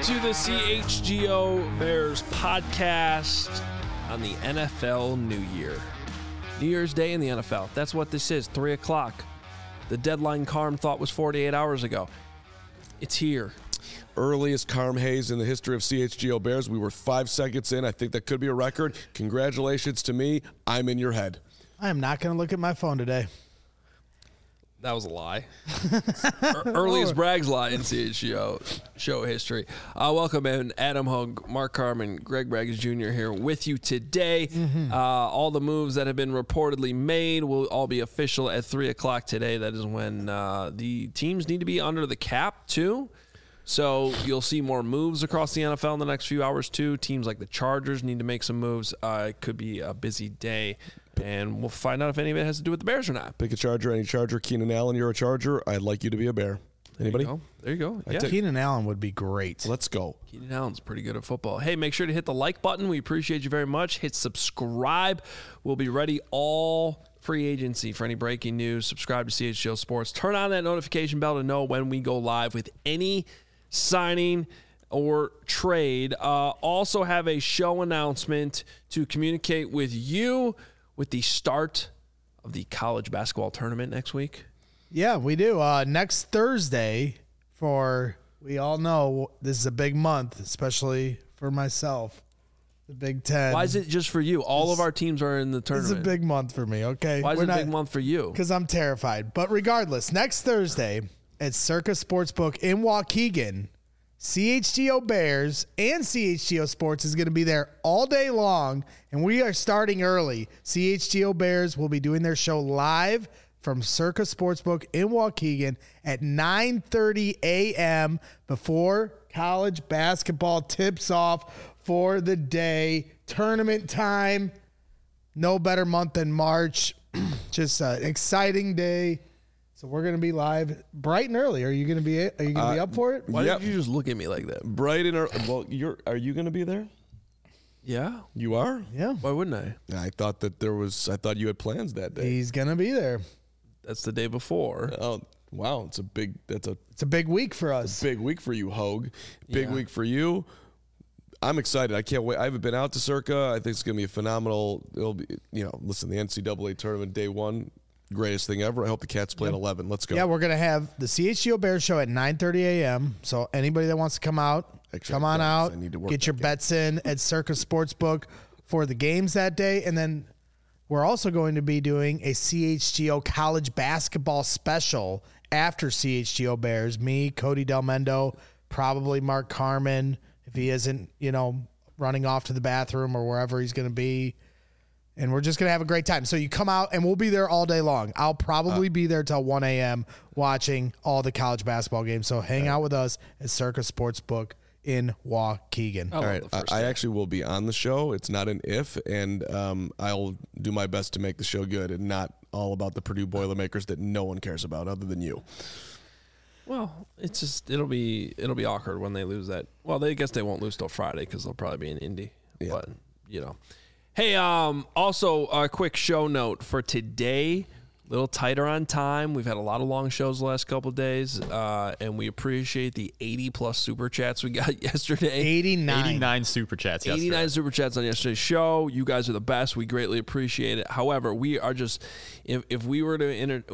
to the CHGO Bears podcast on the NFL New Year. New Year's Day in the NFL. That's what this is, 3 o'clock. The deadline Carm thought was 48 hours ago. It's here. Earliest Carm Hayes in the history of CHGO Bears. We were 5 seconds in. I think that could be a record. Congratulations to me. I'm in your head. I am not going to look at my phone today. That was a lie. Earliest Bragg's lie in CHGO show history. Welcome in Adam Hogue, Mark Carman, Greg Braggs Jr. here with you today. All the moves that have been reportedly made will all be official at 3 o'clock today. That is when the teams need to be under the cap, too. So you'll see more moves across the NFL in the next few hours, too. Teams like the Chargers need to make some moves. It could be a busy day. And we'll find out if any of it has to do with the Bears or not. Pick a Charger, any Charger. Keenan Allen, you're a Charger. I'd like you to be a Bear. Anybody? There you go. Yeah. Keenan Allen would be great. Let's go. Keenan Allen's pretty good at football. Hey, make sure to hit the like button. We appreciate you very much. Hit subscribe. We'll be ready all free agency for any breaking news. Subscribe to CHGO Sports. Turn on that notification bell to know when we go live with any signing or trade. Also have a show announcement to communicate with you with the start of the college basketball tournament next week. Yeah, we do. Next Thursday, we all know this is a big month, especially for myself, the Big Ten. Why is it just for you? All of our teams are in the tournament. It's a big month for me, okay? Why is it a big month for you? Because I'm terrified. But regardless, next Thursday at Circa Sportsbook in Waukegan, CHGO Bears and CHGO Sports is going to be there all day long, and we are starting early. CHGO Bears will be doing their show live from Circa Sportsbook in Waukegan at 9:30 a.m. before college basketball tips off for the day. Tournament time. No better month than March. Just an exciting day. So we're going to be live bright and early. Are you going to be up for it? Why did you just look at me like that? Bright and early. Well, are you going to be there? Yeah. You are? Yeah. Why wouldn't I? I thought you had plans that day. He's going to be there. That's the day before. Oh, wow. It's a big week for us. Big week for you, Hogue. Big week for you. I'm excited. I can't wait. I haven't been out to Circa. I think it's going to be a phenomenal. It'll be, listen, the NCAA tournament day one. Greatest thing ever. I hope the Cats play at 11. Let's go. Yeah, we're going to have the CHGO Bears show at 9:30 a.m. So anybody that wants to come out, come on out. Get your bets in at Circa Sportsbook for the games that day. And then we're also going to be doing a CHGO college basketball special after CHGO Bears. Me, Cody Del Mendo, probably Mark Carman, if he isn't, running off to the bathroom or wherever he's going to be. And we're just going to have a great time. So you come out, and we'll be there all day long. I'll probably be there till 1 a.m. watching all the college basketball games. So hang out with us at Circa Sportsbook in Waukegan. All right. I actually will be on the show. It's not an if, and I'll do my best to make the show good and not all about the Purdue Boilermakers that no one cares about other than you. Well, it's just it'll be awkward when they lose that. Well, I guess they won't lose till Friday because they'll probably be in Indy. Yeah. But Hey, also a quick show note for today, a little tighter on time. We've had a lot of long shows the last couple of days, and we appreciate the 80-plus Super Chats we got yesterday. 89 Super Chats yesterday. 89 Super Chats on yesterday's show. You guys are the best. We greatly appreciate it. However, we are just, if we were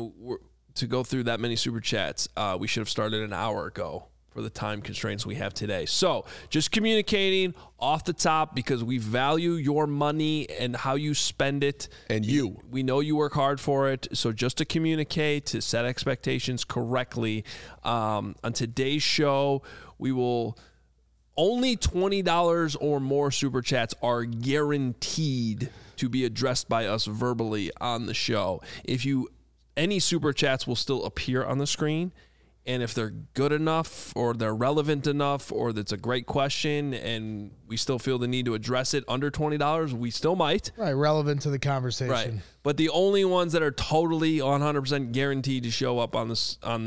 to go through that many Super Chats, we should have started an hour ago for the time constraints we have today. So just communicating off the top because we value your money and how you spend it. And we know you work hard for it. So just to communicate, to set expectations correctly, on today's show, we will only $20 or more Super Chats are guaranteed to be addressed by us verbally on the show. Any Super Chats will still appear on the screen. And if they're good enough or they're relevant enough or that's a great question and we still feel the need to address it under $20, we still might. Right, relevant to the conversation. Right. But the only ones that are totally 100% guaranteed to show up or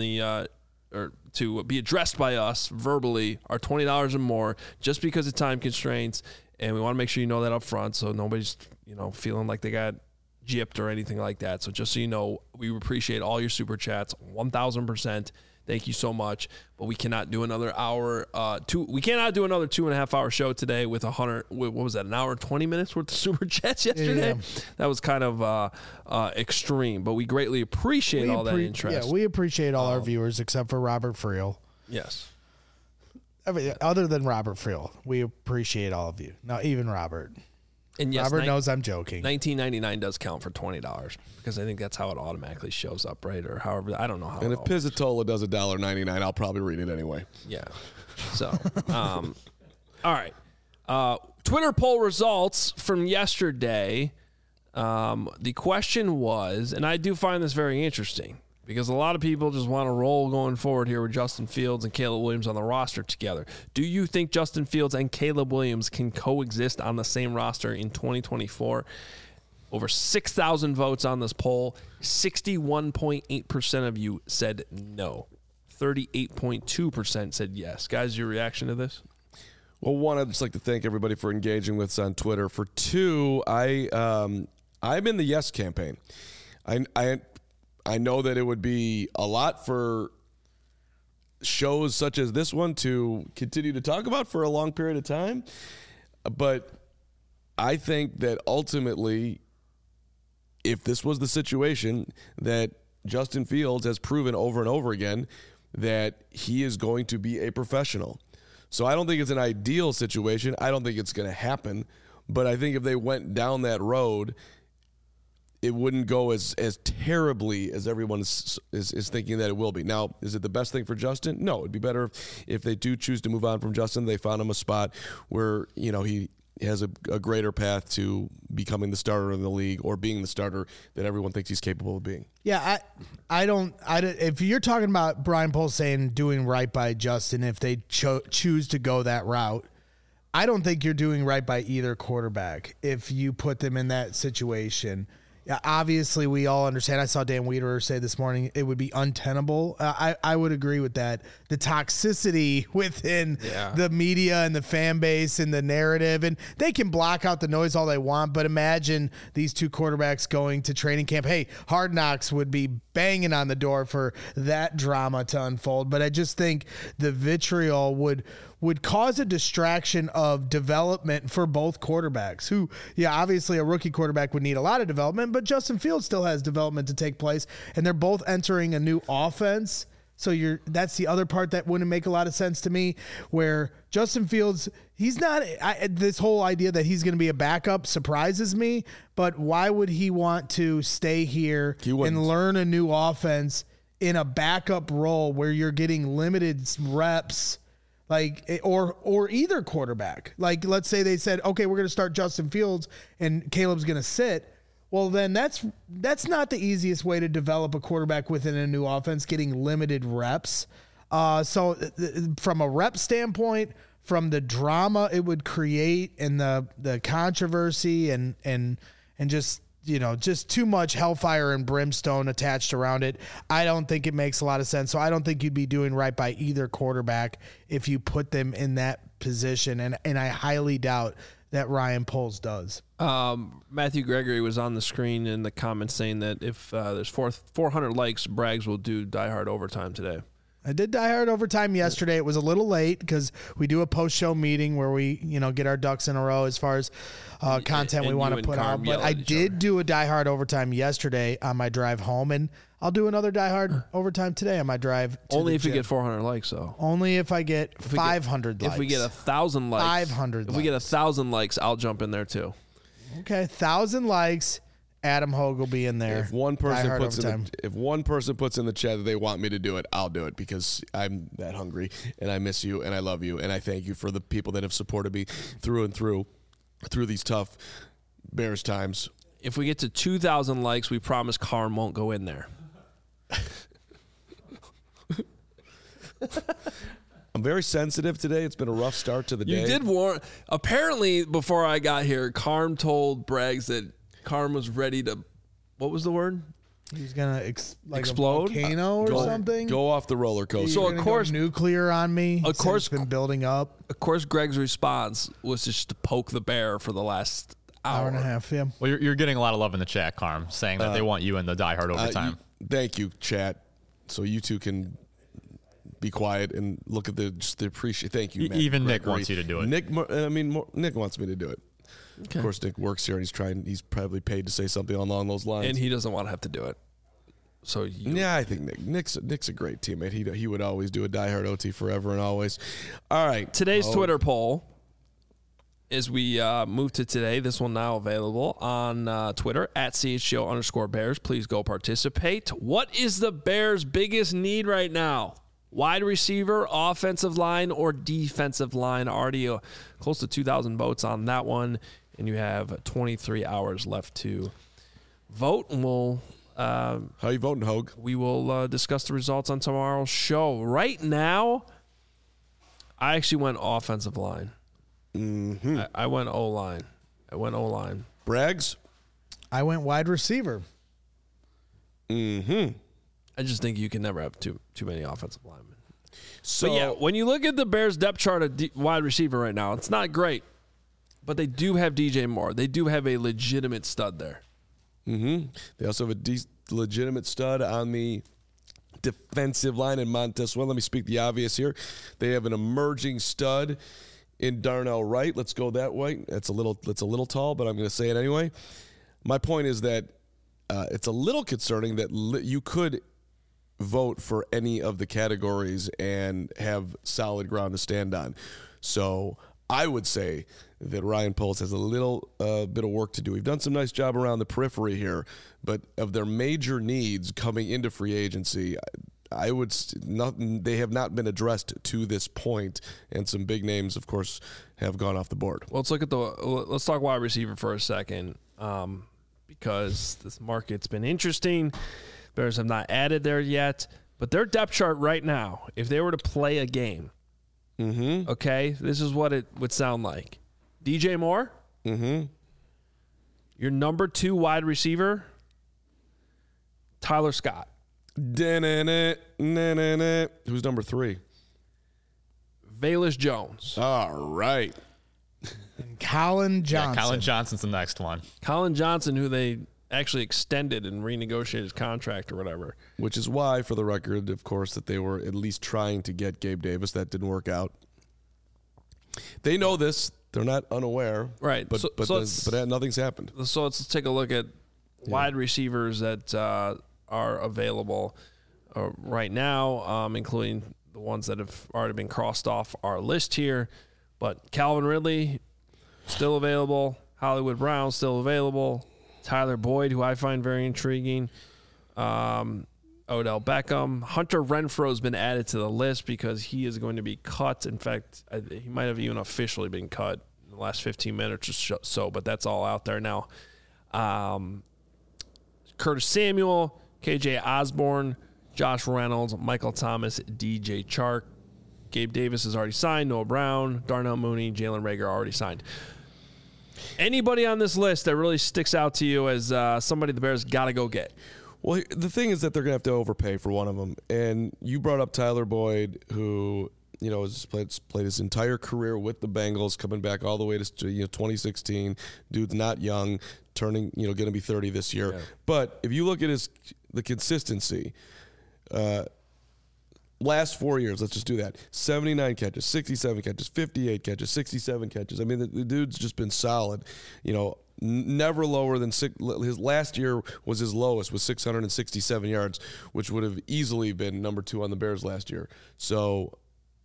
to be addressed by us verbally are $20 or more just because of time constraints. And we want to make sure you know that up front so nobody's, feeling like they got gypped or anything like that. So just so you know, we appreciate all your Super Chats 1,000%. Thank you so much. But we cannot do another hour. We cannot do another 2.5 hour show today with 100. What was that? An hour and 20 minutes worth of super chats yesterday. Yeah. That was kind of extreme. But we greatly appreciate all that interest. Yeah, we appreciate all our viewers except for Robert Friel. Yes. Other than Robert Friel, we appreciate all of you. Not even Robert. And yes, Robert knows I'm joking. $19.99 does count for $20 because I think that's how it automatically shows up, right? Or however, I don't know how. And if Pizzatola does $1.99, I'll probably read it anyway. Yeah. So, all right. Twitter poll results from yesterday. The question was, and I do find this very interesting because a lot of people just want to roll going forward here with Justin Fields and Caleb Williams on the roster together. Do you think Justin Fields and Caleb Williams can coexist on the same roster in 2024? Over 6,000 votes on this poll. 61.8% of you said no. 38.2% said yes. Guys, your reaction to this? Well, one, I'd just like to thank everybody for engaging with us on Twitter. For two, I'm in the yes campaign. I know that it would be a lot for shows such as this one to continue to talk about for a long period of time. But I think that ultimately, if this was the situation, that Justin Fields has proven over and over again that he is going to be a professional. So I don't think it's an ideal situation. I don't think it's going to happen. But I think if they went down that road, it wouldn't go as terribly as everyone is thinking that it will be. Now, is it the best thing for Justin? No, it'd be better if they do choose to move on from Justin. They found him a spot where, he has a greater path to becoming the starter in the league or being the starter that everyone thinks he's capable of being. Yeah, I don't. If you're talking about Brian Poles saying doing right by Justin, if they choose to go that route, I don't think you're doing right by either quarterback if you put them in that situation. Yeah, obviously, we all understand. I saw Dan Wiederer say this morning it would be untenable. I would agree with that. The toxicity within the media and the fan base and the narrative, and they can block out the noise all they want, but imagine these two quarterbacks going to training camp. Hey, Hard Knocks would be banging on the door for that drama to unfold. But I just think the vitriol would cause a distraction of development for both quarterbacks who, obviously a rookie quarterback would need a lot of development, but Justin Fields still has development to take place, and they're both entering a new offense. So that's the other part that wouldn't make a lot of sense to me, where Justin Fields, he's not this whole idea that he's going to be a backup surprises me, but why would he want to stay here and learn a new offense in a backup role where you're getting limited reps? Or either quarterback. Like, let's say they said, okay, we're going to start Justin Fields and Caleb's going to sit. Well, then that's not the easiest way to develop a quarterback within a new offense, getting limited reps. So from a rep standpoint, from the drama it would create and the controversy and just too much hellfire and brimstone attached around it, I don't think it makes a lot of sense. So I don't think you'd be doing right by either quarterback if you put them in that position. And I highly doubt that Ryan Poles does. Matthew Gregory was on the screen in the comments saying that if there's 400 likes, Braggs will do Die Hard Overtime today. I did Die Hard Overtime yesterday. It was a little late because we do a post-show meeting where we, get our ducks in a row as far as content we want to put out. But I did do a Die Hard Overtime yesterday on my drive home, and I'll do another Die Hard Overtime today on my drive to only if you get 400 likes, though. Only if I get 500 likes. If we get 1,000 likes. 500 If we get 1,000 likes, I'll jump in there, too. Okay, 1,000 likes. Adam Hogue will be in there. If one person puts in the chat that they want me to do it, I'll do it because I'm that hungry and I miss you and I love you and I thank you for the people that have supported me through and through these tough Bears times. If we get to 2,000 likes, we promise Carm won't go in there. I'm very sensitive today. It's been a rough start to the day. You did warn. Apparently, before I got here, Carm told Braggs that Carm was ready to, what was the word? He's going to explode? A volcano or something? Go off the roller coaster. So, of course, nuclear on me. Of course, it's been building up. Of course, Greg's response was just to poke the bear for the last hour and a half. Yeah. Well, you're getting a lot of love in the chat, Carm, saying that they want you in the Die Hard Overtime. Thank you, chat. So you two can be quiet and look at the appreciate. Thank you, Matt. Even Nick wants you to do it. Nick wants me to do it. Okay. Of course, Nick works here, and he's probably paid to say something along those lines. And he doesn't want to have to do it. So I think Nick's a great teammate. He would always do a diehard OT forever and always. All right. Today's Twitter poll, as we move to today, this one now available on Twitter at @CHGO_Bears. Please go participate. What is the Bears' biggest need right now? Wide receiver, offensive line, or defensive line? Already close to 2,000 votes on that one, and you have 23 hours left to vote. And we'll how you voting, Hogue? We will discuss the results on tomorrow's show. Right now, I actually went offensive line. Mm-hmm. I went O-line. Braggs? I went wide receiver. Mm-hmm. I just think you can never have too many offensive linemen. So yeah, when you look at the Bears depth chart of wide receiver right now, it's not great. But they do have DJ Moore. They do have a legitimate stud there. Mm-hmm. They also have a legitimate stud on the defensive line in Montez. Well, let me speak the obvious here. They have an emerging stud in Darnell Wright. Let's go that way. That's a little tall, but I'm going to say it anyway. My point is that it's a little concerning that you could vote for any of the categories and have solid ground to stand on. So I would say that Ryan Poles has a little bit of work to do. We've done some nice job around the periphery here, but of their major needs coming into free agency, they have not been addressed to this point, and some big names, of course, have gone off the board. Well, let's talk wide receiver for a second, because this market's been interesting. Bears have not added there yet, but their depth chart right now, if they were to play a game, okay, this is what it would sound like. DJ Moore, your number 2 wide receiver, Tyler Scott. Who's number 3? Velus Jones. All right. And Colin Johnson. Yeah, Colin Johnson's the next one. Colin Johnson, who they actually extended and renegotiated his contract or whatever. Which is why, for the record, of course, that they were at least trying to get Gabe Davis. That didn't work out. They know this. They're not unaware. Right. But nothing's happened. So let's take a look at wide receivers that are available right now, including the ones that have already been crossed off our list here. But Calvin Ridley, still available. Hollywood Brown, still available. Tyler Boyd, who I find very intriguing. Odell Beckham. Hunter Renfrow has been added to the list because he is going to be cut. In fact, he might have even officially been cut in the last 15 minutes or so, but that's all out there now. Curtis Samuel, KJ Osborne, Josh Reynolds, Michael Thomas, DJ Chark. Gabe Davis is already signed. Noah Brown, Darnell Mooney, Jalen Reagor already signed. Anybody on this list that really sticks out to you as somebody the Bears got to go get? Well, the thing is that they're going to have to overpay for one of them. And you brought up Tyler Boyd, who has played his entire career with the Bengals, coming back all the way to 2016. Dude's not young, turning going to be 30 this year. Yeah. But if you look at the consistency, last 4 years, let's just do that. 79 catches, 67 catches, 58 catches, 67 catches. I mean, the dude's just been solid. Never lower than his last year was his lowest, was 667 yards, which would have easily been number 2 on the Bears last year. So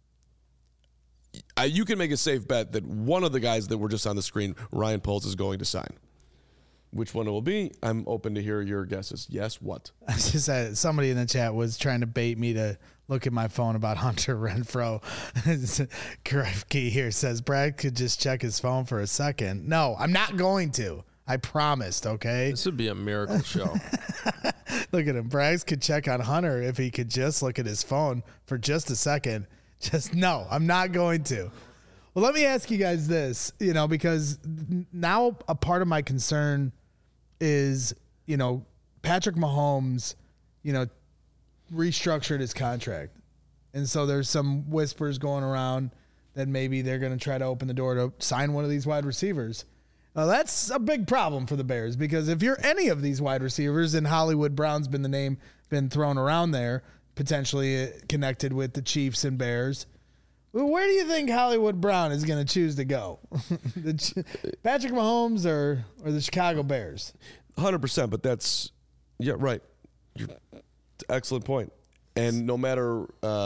you can make a safe bet that one of the guys that were just on the screen, Ryan Poles, is going to sign. Which one it will be, I'm open to hear your guesses. Yes, what? I just said somebody in the chat was trying to bait me to look at my phone about Hunter Renfrow. Krefke here says Brad could just check his phone for a second. No, I'm not going to. I promised, okay? This would be a miracle show. Look at him. Braggs could check on Hunter if he could just look at his phone for just a second. No, I'm not going to. Well, let me ask you guys this, because now a part of my concern is, Patrick Mahomes, restructured his contract. And so there's some whispers going around that maybe they're going to try to open the door to sign one of these wide receivers. That's a big problem for the Bears, because if you're any of these wide receivers, and Hollywood Brown's been the name been thrown around there, potentially connected with the Chiefs and Bears. Where do you think Hollywood Brown is going to choose to go? Patrick Mahomes or the Chicago Bears? 100%, but that's right. Excellent point. And no matter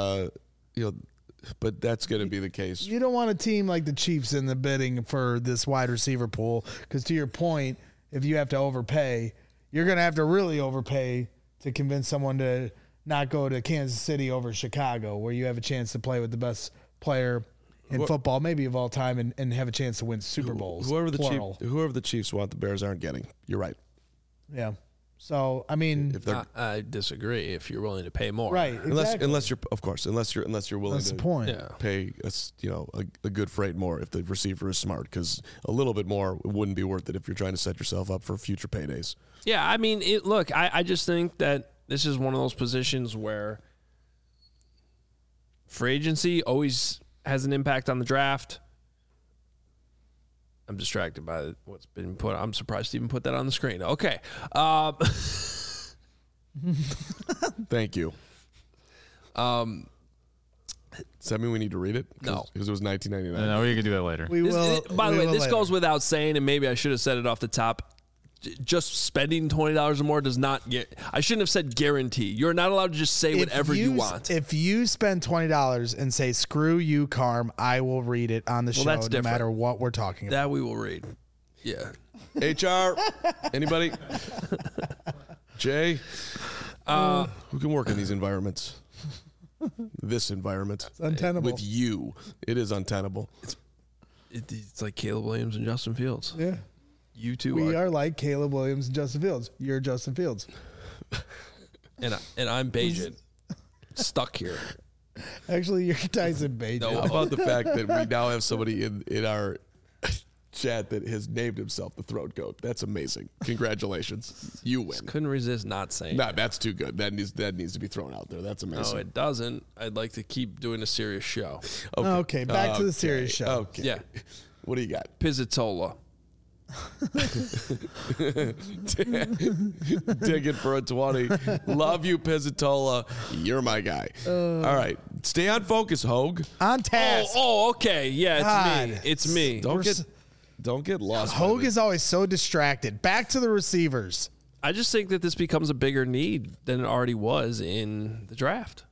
but that's going to be the case. You don't want a team like the Chiefs in the bidding for this wide receiver pool because, to your point, if you have to overpay, you're going to have to really overpay to convince someone to not go to Kansas City over Chicago, where you have a chance to play with the best player in football, maybe of all time, and have a chance to win Super Bowls. Whoever the Chiefs want, the Bears aren't getting. You're right. Yeah. So I mean, I disagree. If you're willing to pay more, right? Exactly. Unless you're willing That's to the point. pay a good freight more if the receiver is smart, because a little bit more wouldn't be worth it if you're trying to set yourself up for future paydays. Yeah, I mean, look, I just think that this is one of those positions where free agency always has an impact on the draft. I'm distracted by what's been put. I'm surprised Steven put that on the screen. Okay. Thank you. Does that mean we need to read it? No. Because it was 1999. No, we can do that later. By the way, this goes without saying, and maybe I should have said it off the top. Just spending $20 or more does not get. I shouldn't have said guarantee. You're not allowed to just say whatever you want. If you spend $20 and say "screw you, Carm," I will read it on the show, no matter what we're talking about. That we will read. Yeah. HR, anybody? Jay, who can work in these environments? This environment, it's untenable. With you, it is untenable. It's like Caleb Williams and Justin Fields. Yeah. You two We are like Caleb Williams and Justin Fields. You're Justin Fields. and I'm Bajan. Stuck here. Actually, you're Tyson Bajan. No, how about the fact that we now have somebody in our chat that has named himself the Throat Goat? That's amazing. Congratulations. You win. Couldn't resist not saying that. That's too good. That needs to be thrown out there. That's amazing. No, it doesn't. I'd like to keep doing a serious show. Okay, back to the serious show. Okay. Yeah. What do you got? Pizzatola. Digging for a 20. Love you, Pizzatola. You're my guy. All right. Stay on focus, Hogue. On task. Oh, okay. Yeah, it's me. Don't get lost. Hogue is always so distracted. Back to the receivers. I just think that this becomes a bigger need than it already was in the draft.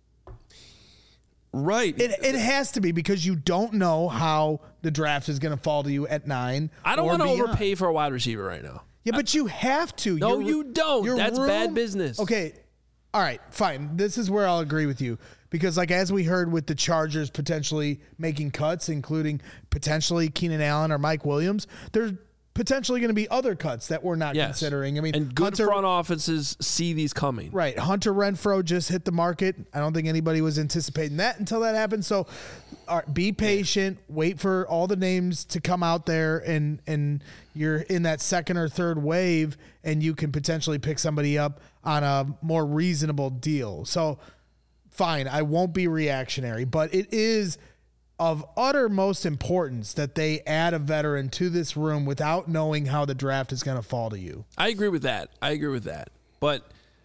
Right. It has to be, because you don't know how the draft is going to fall to you at 9. I don't want to overpay for a wide receiver right now. Yeah, but you have to. No, you don't. That's bad business. Okay. All right, fine. This is where I'll agree with you. Because, as we heard with the Chargers potentially making cuts, including potentially Keenan Allen or Mike Williams, there's potentially going to be other cuts that we're not considering. I mean, and good front offices see these coming. Right. Hunter Renfrow just hit the market. I don't think anybody was anticipating that until that happened. So be patient. Wait for all the names to come out there, and you're in that second or third wave, and you can potentially pick somebody up on a more reasonable deal. So fine, I won't be reactionary, but it is of uttermost importance that they add a veteran to this room without knowing how the draft is going to fall to you. I agree with that. But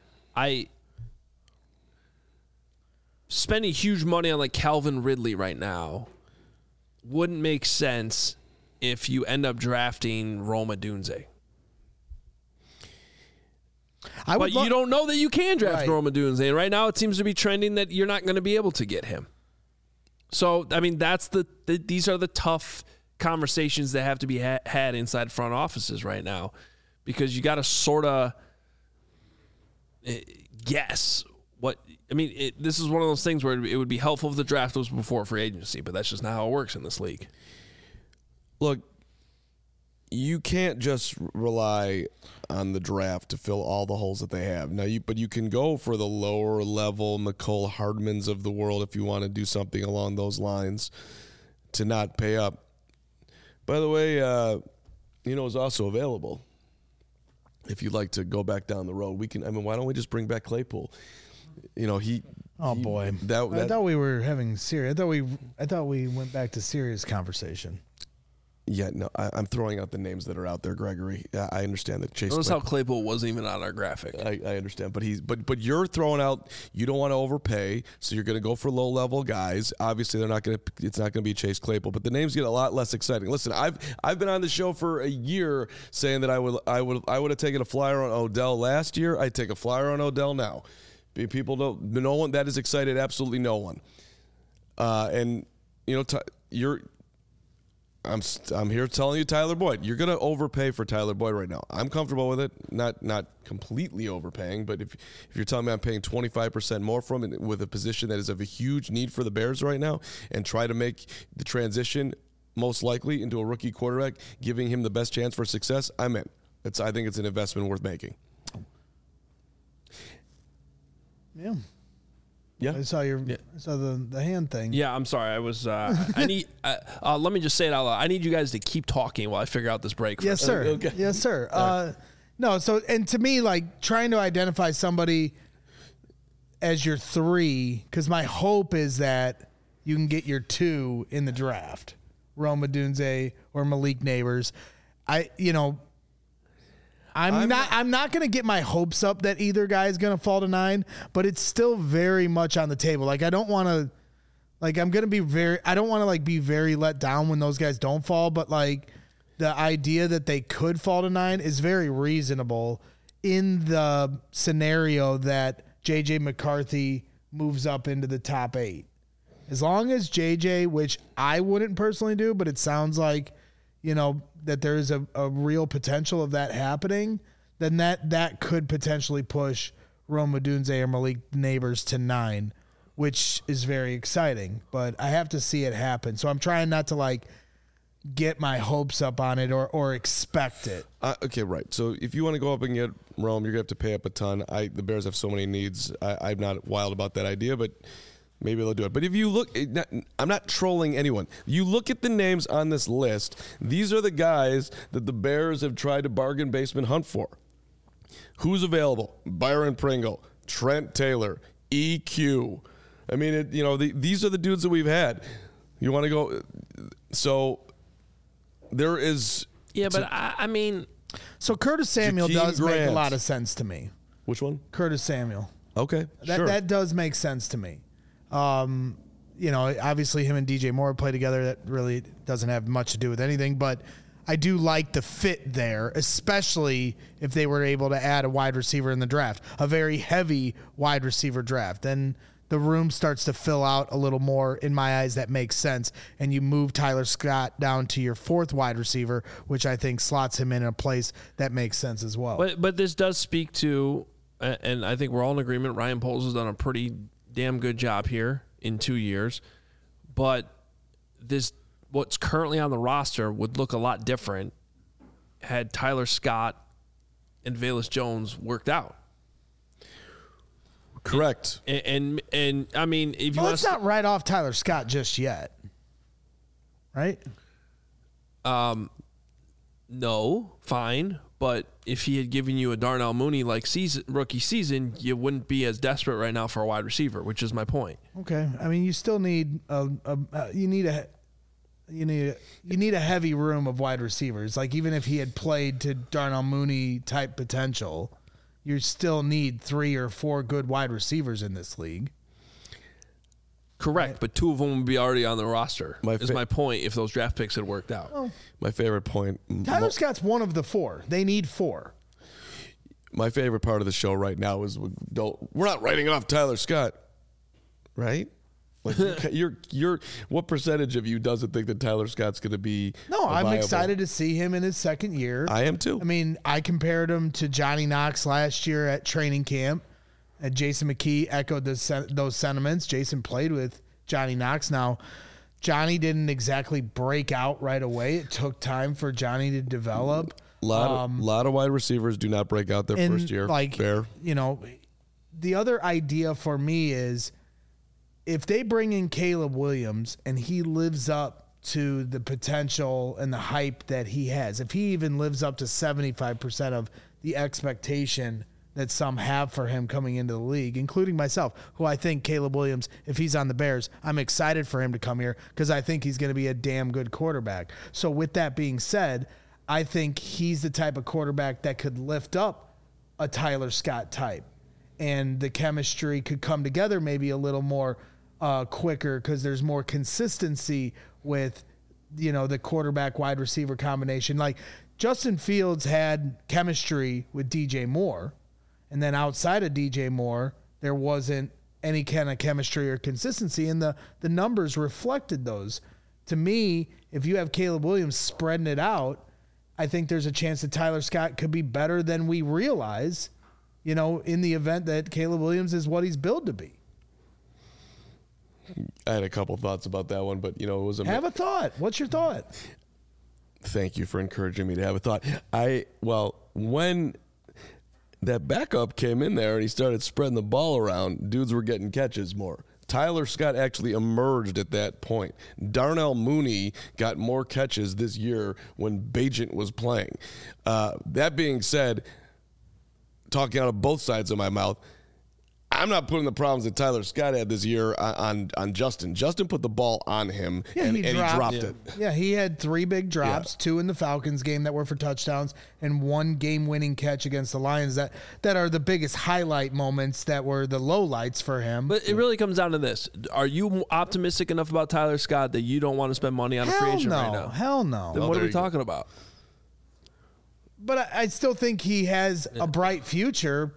spending huge money on like Calvin Ridley right now wouldn't make sense if you end up drafting Rome Odunze. But you don't know that you can draft Rome Odunze. And right now it seems to be trending that you're not going to be able to get him. So, I mean, these are the tough conversations that have to be had inside front offices right now, because you got to sort of guess what. I mean, this is one of those things where it would be helpful if the draft was before free agency, but that's just not how it works in this league. Look, you can't just rely on the draft to fill all the holes that they have. But you can go for the lower level Mecole Hardmans of the world if you want to do something along those lines to not pay up. By the way, is also available. If you'd like to go back down the road, we can. I mean, why don't we just bring back Claypool? Boy, I thought we were having serious. I thought we went back to serious conversation. Yeah, no, I'm throwing out the names that are out there, Gregory. I understand that Chase. Notice how Claypool wasn't even on our graphic. I understand, but you're throwing out. You don't want to overpay, so you're going to go for low level guys. Obviously, it's not going to be Chase Claypool, but the names get a lot less exciting. Listen, I've been on the show for a year saying that I would have taken a flyer on Odell last year. I'd take a flyer on Odell now. People don't. No one that is excited. Absolutely no one. And I'm here telling you, Tyler Boyd. You're going to overpay for Tyler Boyd right now. I'm comfortable with it, not completely overpaying, but if you're telling me I'm paying 25% more from it with a position that is of a huge need for the Bears right now, and try to make the transition most likely into a rookie quarterback, giving him the best chance for success, I'm in. I think it's an investment worth making. Yeah. Yeah, I saw the hand thing. Yeah, I'm sorry. I was. I need. Let me just say it out loud. I need you guys to keep talking while I figure out this break. Yes, sir. Okay. Yes, sir. No. So, and to me, like trying to identify somebody as your 3, because my hope is that you can get your 2 in the draft, Rome Odunze or Malik Neighbors. I'm not going to get my hopes up that either guy is going to fall to 9, but it's still very much on the table. Like I don't want to, like I'm going to be I don't want to like be very let down when those guys don't fall, but like the idea that they could fall to 9 is very reasonable in the scenario that JJ McCarthy moves up into the top 8. As long as JJ, which I wouldn't personally do, but it sounds like, that there's a real potential of that happening, then that could potentially push Rome Odunze or Malik Neighbors to 9, which is very exciting. But I have to see it happen. So I'm trying not to like get my hopes up on it or expect it. Okay, right. So if you want to go up and get Rome, you're going to have to pay up a ton. The Bears have so many needs. I'm not wild about that idea, but maybe they'll do it. But if you look, I'm not trolling anyone. You look at the names on this list. These are the guys that the Bears have tried to bargain basement hunt for. Who's available? Byron Pringle, Trent Taylor, EQ. I mean, these are the dudes that we've had. You want to go? So there is. Yeah, but I mean. So Curtis Samuel Jakeem does Grant. make a lot of sense to me. Which one? Curtis Samuel. Okay, sure. That does make sense to me. Obviously him and DJ Moore play together. That really doesn't have much to do with anything, but I do like the fit there, especially if they were able to add a wide receiver in the draft, a very heavy wide receiver draft. Then the room starts to fill out a little more. In my eyes, that makes sense. And you move Tyler Scott down to your 4th wide receiver, which I think slots him in a place that makes sense as well. But this does speak to, and I think we're all in agreement, Ryan Poles has done a pretty damn good job here in 2 years, but what's currently on the roster would look a lot different had Tyler Scott and Velus Jones worked out. Correct. And I mean, if you let's not write off Tyler Scott just yet, right? No, fine. But if he had given you a Darnell Mooney like rookie season, you wouldn't be as desperate right now for a wide receiver, which is my point. Okay, I mean you still need you need a heavy room of wide receivers. Like even if he had played to Darnell Mooney type potential, you still need 3 or 4 good wide receivers in this league. Correct, right. But 2 of them would be already on the roster. Is my point if those draft picks had worked out. Oh. My favorite point. Tyler Scott's one of the 4. They need 4. My favorite part of the show right now is we're not writing off Tyler Scott, right? Like you're what percentage of you doesn't think that Tyler Scott's going to be? No, I'm excited to see him in his 2nd year. I am too. I mean, I compared him to Johnny Knox last year at training camp. And Jason McKee echoed those sentiments. Jason played with Johnny Knox. Now, Johnny didn't exactly break out right away. It took time for Johnny to develop. A lot of wide receivers do not break out their first year. Like, fair. The other idea for me is if they bring in Caleb Williams and he lives up to the potential and the hype that he has, if he even lives up to 75% of the expectation that some have for him coming into the league, including myself, who I think Caleb Williams, if he's on the Bears, I'm excited for him to come here because I think he's going to be a damn good quarterback. So with that being said, I think he's the type of quarterback that could lift up a Tyler Scott type, and the chemistry could come together maybe a little more quicker because there's more consistency with, the quarterback wide receiver combination. Like Justin Fields had chemistry with DJ Moore, and then outside of DJ Moore, there wasn't any kind of chemistry or consistency, and the numbers reflected those. To me, if you have Caleb Williams spreading it out, I think there's a chance that Tyler Scott could be better than we realize, in the event that Caleb Williams is what he's billed to be. I had a couple thoughts about that one, but, it was Have a thought. What's your thought? Thank you for encouraging me to have a thought. When that backup came in there and he started spreading the ball around, dudes were getting catches more. Tyler Scott actually emerged at that point. Darnell Mooney got more catches this year when Bagent was playing. That being said, talking out of both sides of my mouth, I'm not putting the problems that Tyler Scott had this year on Justin. Justin put the ball on him, and he dropped it. Yeah, he had 3 big drops, 2 in the Falcons game that were for touchdowns, and 1 game-winning catch against the Lions that are the biggest highlight moments that were the lowlights for him. But it really comes down to this. Are you optimistic enough about Tyler Scott that you don't want to spend money on a free agent right now? Hell no. Then what are we talking about? But I still think he has a bright future.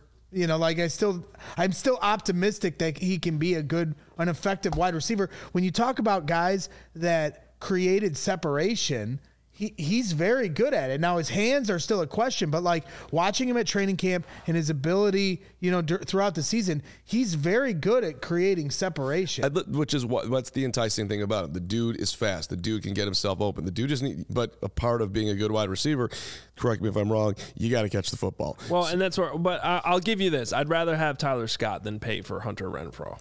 I'm still optimistic that he can be an effective wide receiver. When you talk about guys that created separation, he's very good at it. Now his hands are still a question, but like watching him at training camp and his ability, throughout the season, he's very good at creating separation. Which is what's the enticing thing about him. The dude is fast. The dude can get himself open. The dude but a part of being a good wide receiver, correct me if I'm wrong, you got to catch the football. Well, and that's where, but I'll give you this. I'd rather have Tyler Scott than pay for Hunter Renfrow.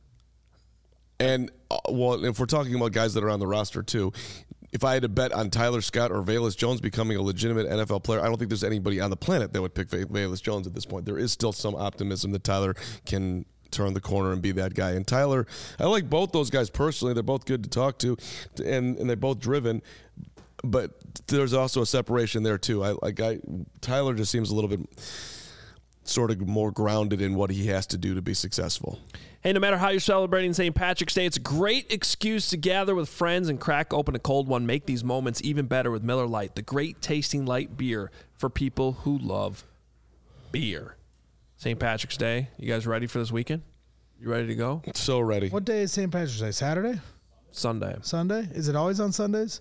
And, if we're talking about guys that are on the roster too, if I had to bet on Tyler Scott or Velus Jones becoming a legitimate NFL player, I don't think there's anybody on the planet that would pick Velus Jones at this point. There is still some optimism that Tyler can turn the corner and be that guy. And Tyler, I like both those guys personally. They're both good to talk to, and they're both driven. But there's also a separation there too. Tyler just seems a little bit sort of more grounded in what he has to do to be successful. Hey, no matter how you're celebrating St. Patrick's Day, it's a great excuse to gather with friends and crack open a cold one. Make these moments even better with Miller Lite, the great tasting light beer for people who love beer. St. Patrick's Day, you guys ready for this weekend? You ready to go? So ready. What day is St. Patrick's Day? Saturday? Sunday. Sunday? Is it always on Sundays?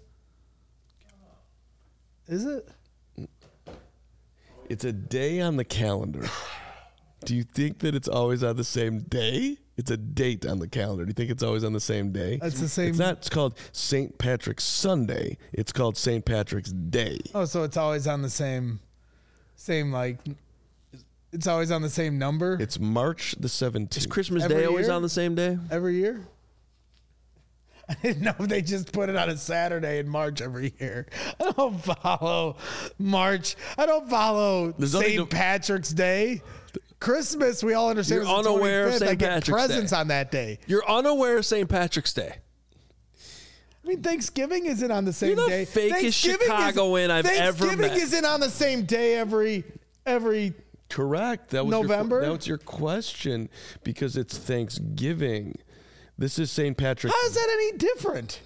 Is it? It's a day on the calendar. Do you think that it's always on the same day? It's a date on the calendar. Do you think it's always on the same day? It's the same. It's not. It's called St. Patrick's Sunday. It's called St. Patrick's Day. Oh, so it's always on the same like. It's always on the same number. It's March the 17th. Is Christmas Day always on the same day? Every year? I didn't know if they just put it on a Saturday in March every year. I don't follow March. I don't follow St. Patrick's Day. Christmas, we all understand. You're unaware of St. Patrick's Day. Presents on that day. You're unaware of St. Patrick's Day. I mean, Thanksgiving isn't on the same You're day. the fakest Chicagoan I've ever met. Thanksgiving isn't on the same day every Correct. That was November. That was your question because it's Thanksgiving. This is St. Patrick's. How is that any different?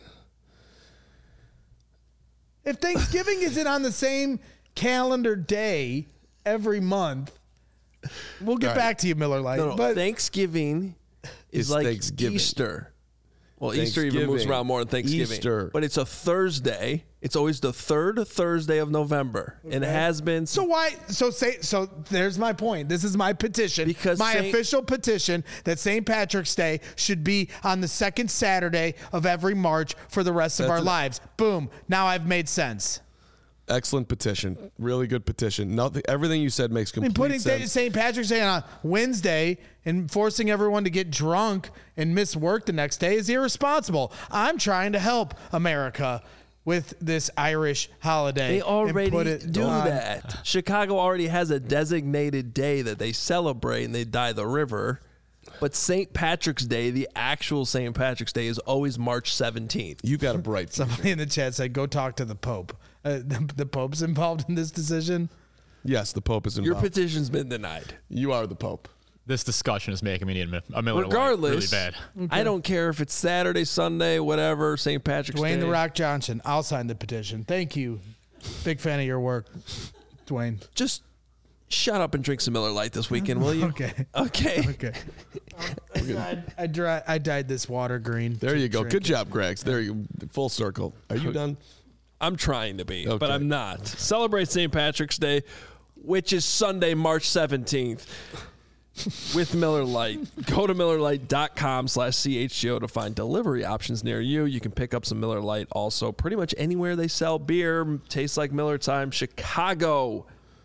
If Thanksgiving isn't on the same calendar day every month, we'll get back to you, Miller Lite. No, but Thanksgiving is like Thanksgiving. Easter. Well, Easter even moves around more than Thanksgiving. Easter. But it's a Thursday. It's always the third Thursday of November. Okay. And it has been. So why? So there's my point. This is my petition. Because my official petition that St. Patrick's Day should be on the second Saturday of every March for the rest of our lives. Boom. Now I've made sense. Excellent petition. Really good petition. Everything you said makes complete sense. Putting St. Patrick's Day on a Wednesday and forcing everyone to get drunk and miss work the next day is irresponsible. I'm trying to help America. with this Irish holiday. They already do on. that. Chicago already has a designated day that they celebrate and they dye the river. But St. Patrick's Day, the actual St. Patrick's Day, is always March 17th. You got a bright future. Somebody in the chat said, go talk to the Pope. The Pope's involved in this decision? Yes, the Pope is involved. Your petition's been denied. You are the Pope. This discussion is making me need a Miller Regardless, Lite really bad. I don't care if it's Saturday, Sunday, whatever, St. Patrick's Day. Dwayne The Rock Johnson, I'll sign the petition. Thank you. Big fan of your work, Dwayne. Just shut up and drink some Miller Lite this weekend, will you? Okay. Okay. I dyed this water green. There you go. Good job, Gregs. There you go. Full circle. Are you done? I'm trying to be, Okay. but I'm not. Celebrate St. Patrick's Day, which is Sunday, March 17th. With Miller Lite. Go to MillerLite.com/CHGO to find delivery options near you. You can pick up some Miller Lite also pretty much anywhere they sell beer. Tastes like Miller time. Chicago.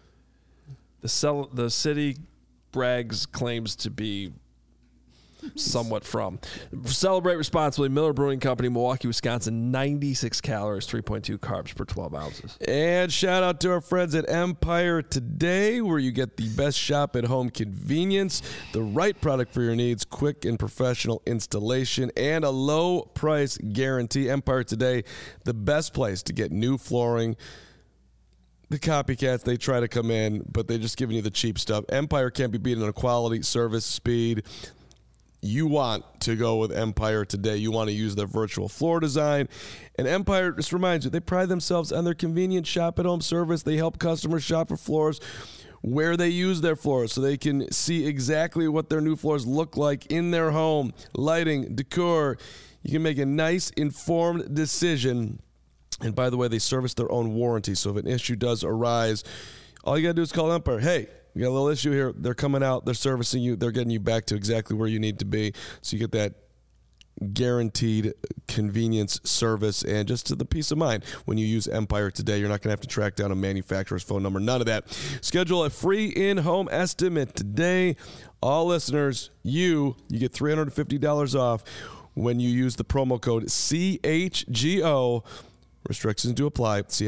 The city brags claims to be somewhat from. Celebrate responsibly. Miller Brewing Company, Milwaukee, Wisconsin. 96 calories, 3.2 carbs per 12 ounces. And shout out to our friends at Empire Today, where you get the best shop at home convenience, the right product for your needs, quick and professional installation, and a low price guarantee. Empire Today, the best place to get new flooring. The copycats, they try to come in, but they're just giving you the cheap stuff. Empire can't be beaten on quality, service, speed. You want to go with Empire Today. You want to use their virtual floor design. And Empire, just reminds you, they pride themselves on their convenient shop-at-home service. They help customers shop for floors where they use their floors so they can see exactly what their new floors look like in their home. Lighting, decor. You can make a nice, informed decision. And by the way, they service their own warranty. So if an issue does arise, all you got to do is call Empire. Hey, we got a little issue here. They're coming out. They're servicing you. They're getting you back to exactly where you need to be. So you get that guaranteed convenience, service, and just to the peace of mind. When you use Empire Today, you're not going to have to track down a manufacturer's phone number. None of that. Schedule a free in-home estimate today. All listeners, you get $350 off when you use the promo code CHGO. Restrictions do apply. See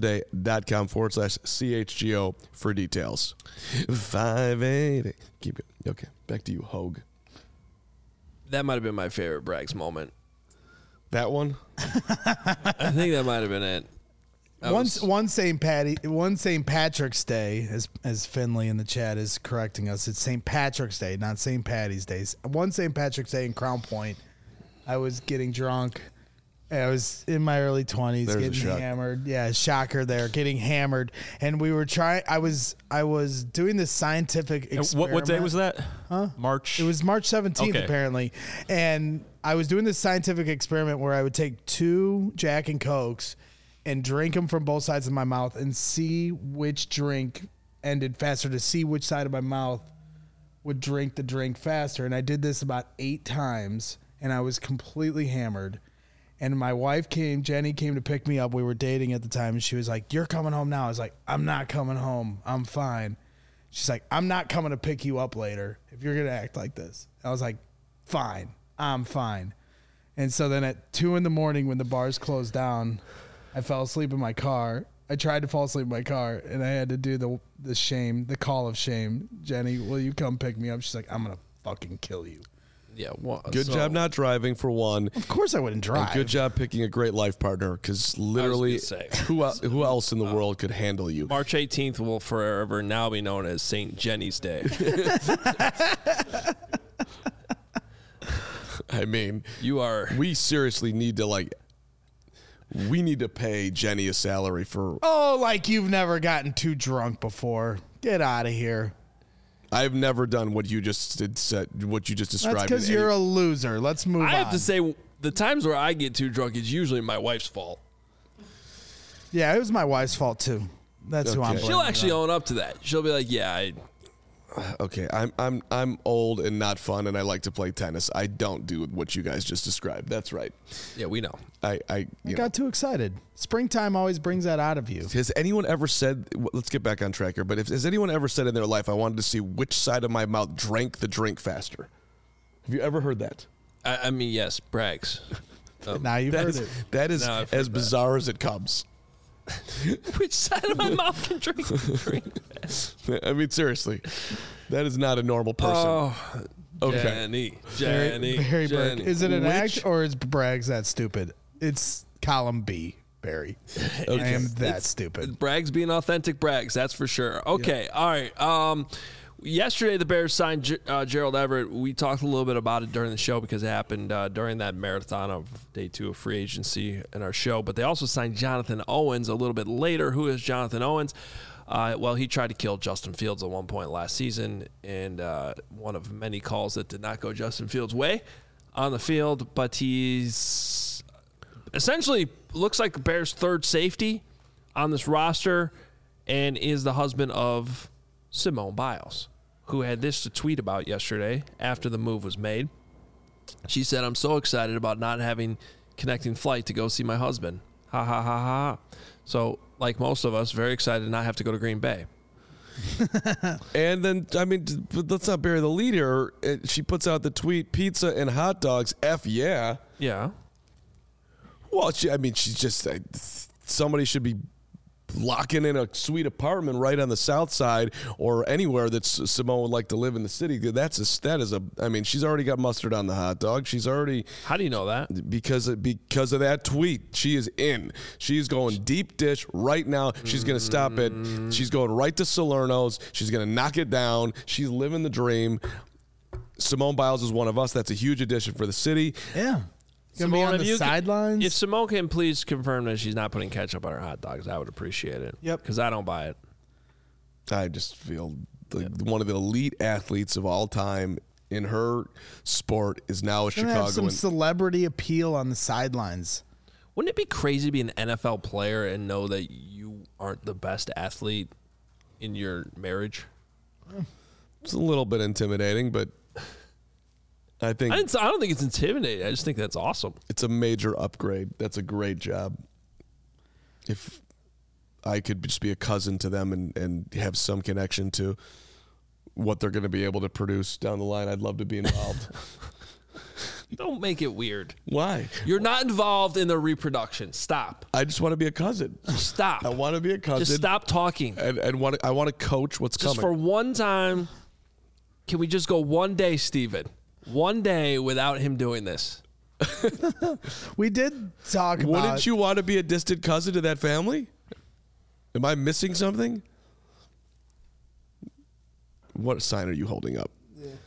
EmpireToday.com/CHGO for details. 580. Keep it. Okay, back to you, Hogue. That might have been my favorite Braggs moment. That one? I think that might have been it. One St. Patrick's Day, as Finley in the chat is correcting us. It's St. Patrick's Day, not St. Patty's Day. One St. Patrick's Day in Crown Point, I was getting drunk. I was in my early 20s, getting hammered. Yeah, shocker there, getting hammered. And we were trying. I was doing this scientific experiment. What day was that? Huh? March. It was March 17th, apparently. And I was doing this scientific experiment where I would take 2 Jack and Cokes and drink them from both sides of my mouth and see which drink ended faster, to see which side of my mouth would drink the drink faster. And I did this about 8 times, and I was completely hammered. And my wife Jenny came to pick me up. We were dating at the time, and she was like, "You're coming home now." I was like, "I'm not coming home. I'm fine." She's like, "I'm not coming to pick you up later if you're going to act like this." I was like, "Fine. I'm fine." And so then at 2 a.m, when the bars closed down, I fell asleep in my car. I tried to fall asleep in my car, and I had to do the call of shame. "Jenny, will you come pick me up?" She's like, "I'm going to fucking kill you." Yeah, good job not driving, for one. Of course I wouldn't drive. And good job picking a great life partner, because literally who else in the world could handle you? March 18th will forever now be known as St. Jenny's Day. I mean, we seriously need to pay Jenny a salary for. Oh, like you've never gotten too drunk before. Get out of here. I've never done what you just described. That's because you're a loser. Let's move on. I have to say, the times where I get too drunk is usually my wife's fault. Yeah, it was my wife's fault too. That's who I'm blaming. She'll actually own up to that. She'll be like, "Yeah, Okay, I'm old and not fun, and I like to play tennis. I don't do what you guys just described. That's right. Yeah, we know. I got too excited. Springtime always brings that out of you. Has anyone ever said? Let's get back on track here. But has anyone ever said in their life, "I wanted to see which side of my mouth drank the drink faster"? Have you ever heard that? I mean, yes, Braggs. Now you've heard it. That is as bizarre as it comes. Which side of my mouth can drink? I mean, seriously, that is not a normal person. Oh, okay. Barry Burke. Is it an act or is Braggs that stupid? It's column B, Barry. Okay. I am that stupid. Braggs being authentic Braggs, that's for sure. Okay, all right. Yesterday, the Bears signed Gerald Everett. We talked a little bit about it during the show because it happened during that marathon of day 2 of free agency in our show. But they also signed Jonathan Owens a little bit later. Who is Jonathan Owens? Well, he tried to kill Justin Fields at one point last season, and one of many calls that did not go Justin Fields' way on the field. But he's essentially looks like the Bears' third safety on this roster and is the husband of Simone Biles, who had this to tweet about yesterday after the move was made. She said, "I'm so excited about not having connecting flight to go see my husband. Ha, ha, ha, ha." So, like most of us, very excited to not have to go to Green Bay. And then, I mean, let's not bury the lead here. She puts out the tweet, pizza and hot dogs, F yeah. Yeah. Well, she's just, somebody should be locking in a sweet apartment right on the south side or anywhere that Simone would like to live in the city. She's already got mustard on the hot dog. She's already. How do you know that? Because of that tweet. She is in. She's going deep dish right now. She's going to stop it. She's going right to Salerno's. She's going to knock it down. She's living the dream. Simone Biles is one of us. That's a huge addition for the city. Yeah. Gonna be on the sidelines. If Simone can please confirm that she's not putting ketchup on her hot dogs, I would appreciate it. Yep. Because I don't buy it. I just feel like one of the elite athletes of all time in her sport is now a Chicagoan. Have some celebrity appeal on the sidelines. Wouldn't it be crazy to be an NFL player and know that you aren't the best athlete in your marriage? It's a little bit intimidating, but I don't think it's intimidating. I just think that's awesome. It's a major upgrade. That's a great job. If I could just be a cousin to them and have some connection to what they're going to be able to produce down the line, I'd love to be involved. Don't make it weird. Why? You're not involved in the reproduction. Stop. I just want to be a cousin. Stop. I want to be a cousin. Just stop talking. And I want to coach what's coming. Just for one time, can we just go one day, Steven? One day without him doing this. We did talk about... Wouldn't you want to be a distant cousin to that family? Am I missing something? What sign are you holding up?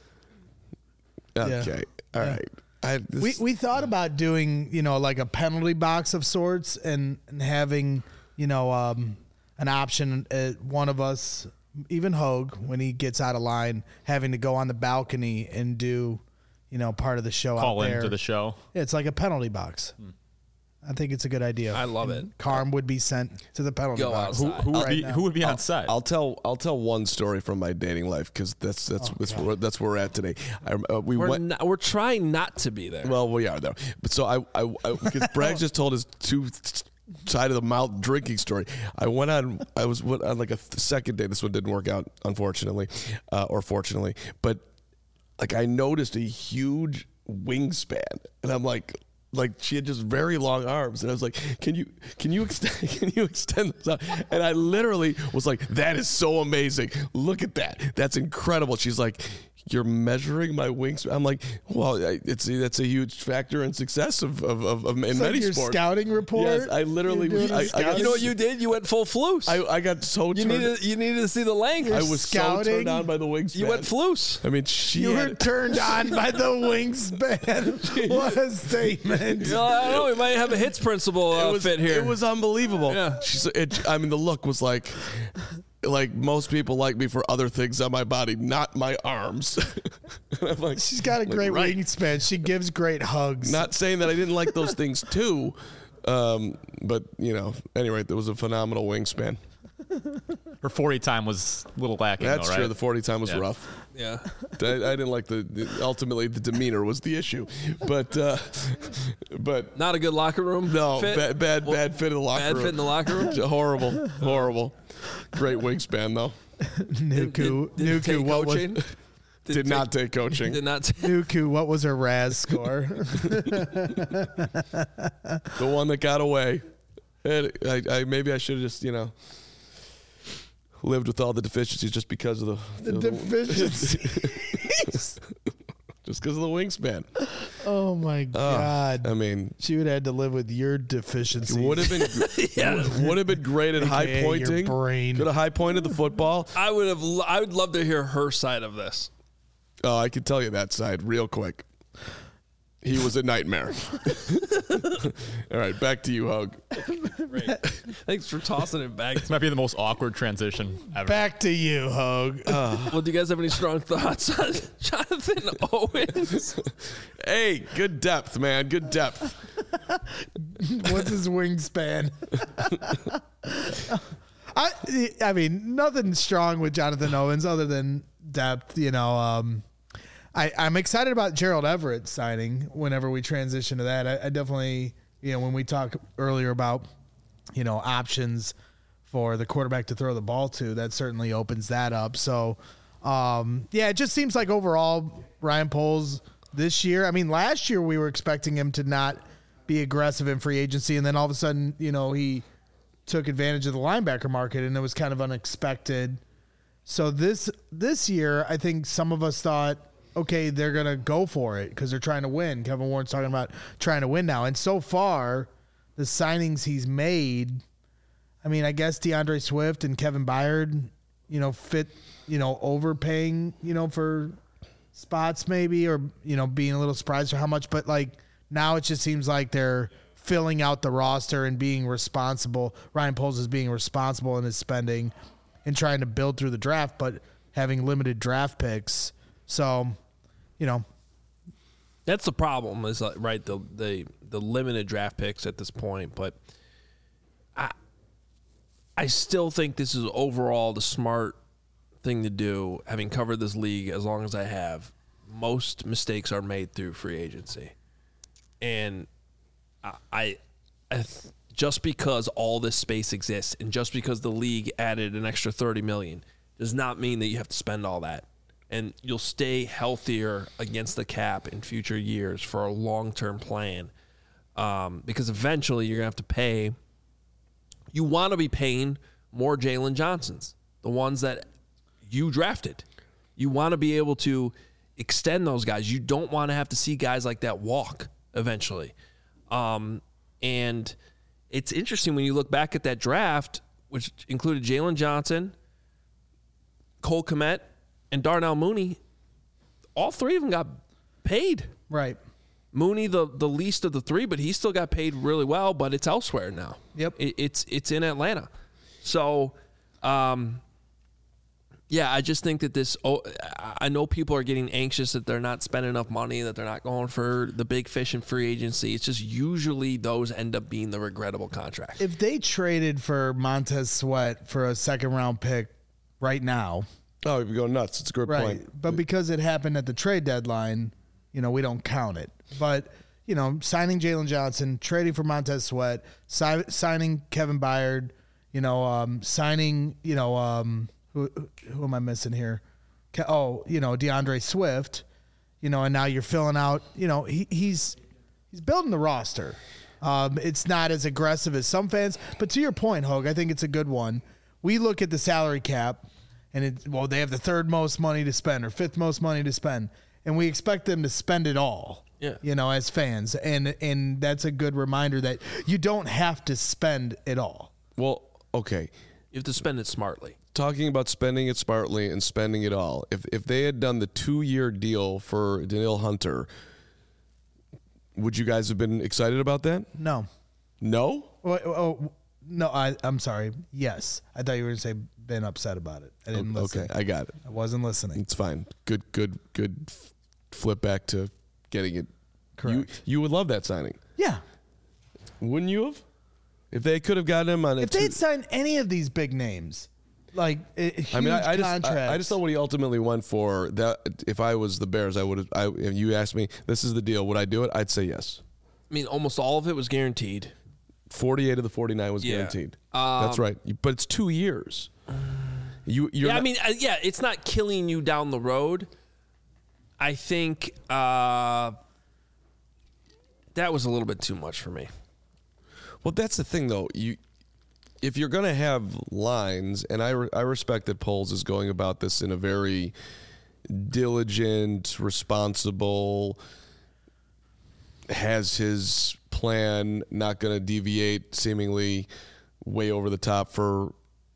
Yeah. Okay. All right. We thought about doing, like a penalty box of sorts and having, an option, one of us, even Hogue, when he gets out of line, having to go on the balcony and do... part of the show Call out there. into the show. Yeah, it's like a penalty box. I think it's a good idea. I love it. Carm would be sent to the penalty box. Who would be on set? I'll tell one story from my dating life because that's where we're at today. We're trying not to be there. Well, we are though. But so because Bragg just told his two side of the mouth drinking story. I was on like a second date. This one didn't work out, unfortunately, or fortunately, but. Like I noticed a huge wingspan, and I'm like she had just very long arms, and I was like, can you extend those out? And I literally was like, that is so amazing. Look at that. That's incredible. She's like, you're measuring my wingspan. I'm like, well, that's a huge factor in success of in it's many like your sports. Scouting report. Yes, I literally. You know what you did? You went full floose. I got so. You needed to see the length. I was scouting. so turned on by the wingspan. You went floose. I mean, you were turned on by the wingspan. What a statement! I don't know. We might have a hits principle fit here. It was unbelievable. Yeah. The look was like most people like me for other things on my body, not my arms. I'm like, she's got a great wingspan. She gives great hugs. Not saying that I didn't like those things too, but anyway, there was a phenomenal wingspan. Her 40 time was a little lacking. That's though, right? true. The 40 time was rough. Yeah, I didn't like ultimately the demeanor was the issue, but not a good locker room. No, fit? bad fit in the locker room. Bad fit in the locker room. Horrible. Great wingspan though. Nuku, Did it take what coaching? was? Did not take coaching. Did not. Nuku, what was her RAS score? The one that got away. Maybe I should have just, lived with all the deficiencies just because of the deficiencies. Just because of the wingspan. Oh my God! I mean, she would have had to live with your deficiencies. Would have been, would have been great at high pointing. Could have high pointed the football. I would love to hear her side of this. Oh, I can tell you that side real quick. He was a nightmare. All right, back to you, Hug. Great. Thanks for tossing it back. This might be the most awkward transition ever. Back to you, Hug. Well, do you guys have any strong thoughts on Jonathan Owens? Hey, good depth, man. Good depth. What's his wingspan? I mean, nothing strong with Jonathan Owens other than depth, I'm excited about Gerald Everett signing whenever we transition to that. I definitely, when we talked earlier about, options for the quarterback to throw the ball to, that certainly opens that up. So, it just seems like overall Ryan Poles this year, I mean, last year we were expecting him to not be aggressive in free agency. And then all of a sudden, he took advantage of the linebacker market and it was kind of unexpected. So this year, I think some of us thought, okay, they're going to go for it because they're trying to win. Kevin Warren's talking about trying to win now. And so far, the signings he's made, I mean, I guess DeAndre Swift and Kevin Byard, fit, overpaying, for spots maybe or, being a little surprised for how much. But, now it just seems like they're filling out the roster and being responsible. Ryan Poles is being responsible in his spending and trying to build through the draft, but having limited draft picks. So, that's the problem is right the limited draft picks at this point. But I still think this is overall the smart thing to do. Having covered this league as long as I have, most mistakes are made through free agency, and I just because all this space exists and just because the league added an extra $30 million does not mean that you have to spend all that. And you'll stay healthier against the cap in future years for a long-term plan because eventually you're going to have to pay. You want to be paying more Jalen Johnsons, the ones that you drafted. You want to be able to extend those guys. You don't want to have to see guys like that walk eventually. And it's interesting when you look back at that draft, which included Jalen Johnson, Cole Kmet, and Darnell Mooney. All three of them got paid. Right. Mooney, the least of the three, but he still got paid really well, but it's elsewhere now. Yep. It's in Atlanta. So, I just think that I know people are getting anxious that they're not spending enough money, that they're not going for the big fish in free agency. It's just usually those end up being the regrettable contracts. If they traded for Montez Sweat for a second-round pick right now. Oh, you'd go nuts. It's a good point. But because it happened at the trade deadline, we don't count it. But, signing Jalen Johnson, trading for Montez Sweat, signing Kevin Byard, signing, who am I missing here? DeAndre Swift, and now you're filling out, he's building the roster. It's not as aggressive as some fans, but to your point, Hogue, I think it's a good one. We look at the salary cap and they have the third most money to spend or fifth most money to spend, and we expect them to spend it all. Yeah. As fans, and that's a good reminder that you don't have to spend it all. Well, okay. You have to spend it smartly. Talking about spending it smartly and spending it all. If they had done the 2-year deal for Danielle Hunter, would you guys have been excited about that? No. No? No, I'm sorry. Yes. I thought you were going to say been upset about it. I didn't listen. Okay, I got it. I wasn't listening. It's fine. Good flip back to getting it. Correct. You would love that signing. Yeah. Wouldn't you have? If they could have gotten him on if they'd signed any of these big names, like huge contracts. I just thought what he ultimately went for, that if I was the Bears, I would have. If you asked me, this is the deal, would I do it? I'd say yes. I mean, almost all of it was guaranteed. 48 of the 49 was guaranteed. That's right. But it's 2 years. It's not killing you down the road, I think that was a little bit too much for me. Well, that's the thing, though. If you're going to have lines, and I respect that Poles is going about this in a very diligent, responsible, has his plan, not going to deviate seemingly way over the top on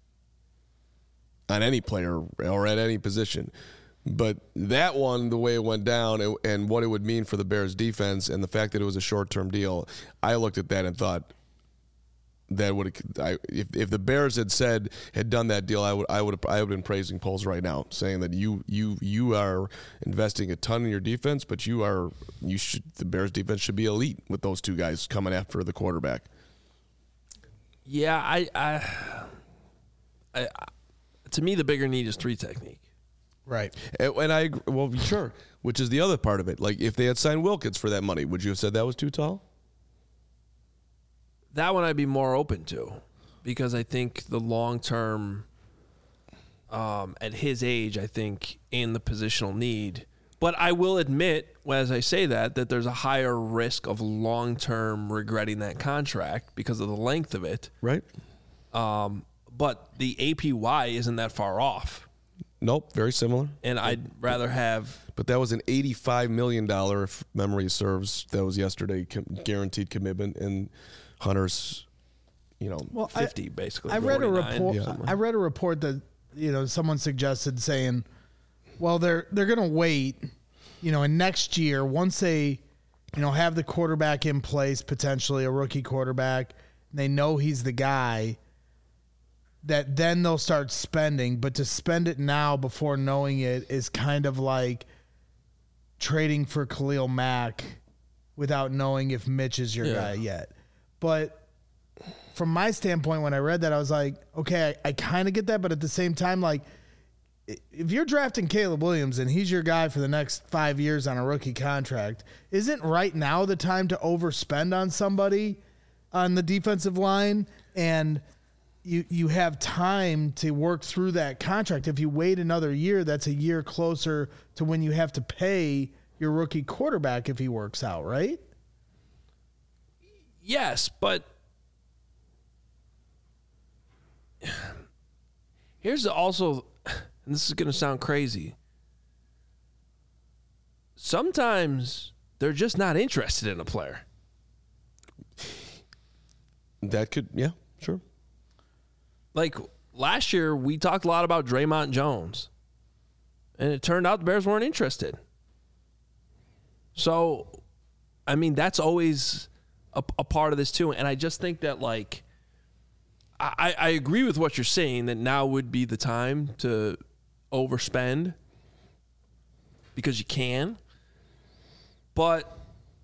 any player or at any position. But that one, the way it went down and what it would mean for the Bears defense and the fact that it was a short-term deal, I looked at that and thought that if the Bears had done that deal, I would have been praising Poles right now, saying that you are investing a ton in your defense, but the Bears defense should be elite with those two guys coming after the quarterback. Yeah, I to me the bigger need is 3 technique. Right. And sure, which is the other part of it. Like, if they had signed Wilkins for that money, would you have said that was too tall? That one I'd be more open to, because I think the long term, at his age, I think in the positional need. But I will admit, as I say that there's a higher risk of long term regretting that contract because of the length of it. Right. But the APY isn't that far off. Nope, very similar. And I'd rather have. But that was an $85 million, if memory serves, that was yesterday, guaranteed commitment, and Hunter's, 50 basically. I read a report. Yeah. I read a report that someone suggested saying, well, they're going to wait, and next year once they, have the quarterback in place, potentially a rookie quarterback, and they know he's the guy, that then they'll start spending. But to spend it now before knowing it is kind of like trading for Khalil Mack without knowing if Mitch is your guy yet. But from my standpoint, when I read that, I was like, okay, I kind of get that. But at the same time, like, if you're drafting Caleb Williams and he's your guy for the next 5 years on a rookie contract, isn't right now the time to overspend on somebody on the defensive line? And you have time to work through that contract. If you wait another year, that's a year closer to when you have to pay your rookie quarterback if he works out, right? Yes, but here's also, and this is going to sound crazy, sometimes they're just not interested in a player. That could, yeah, sure. Like last year, we talked a lot about Draymond Jones, and it turned out the Bears weren't interested. So, I mean, that's always a part of this too. And I just think that, like, I agree with what you're saying, that now would be the time to overspend because you can. But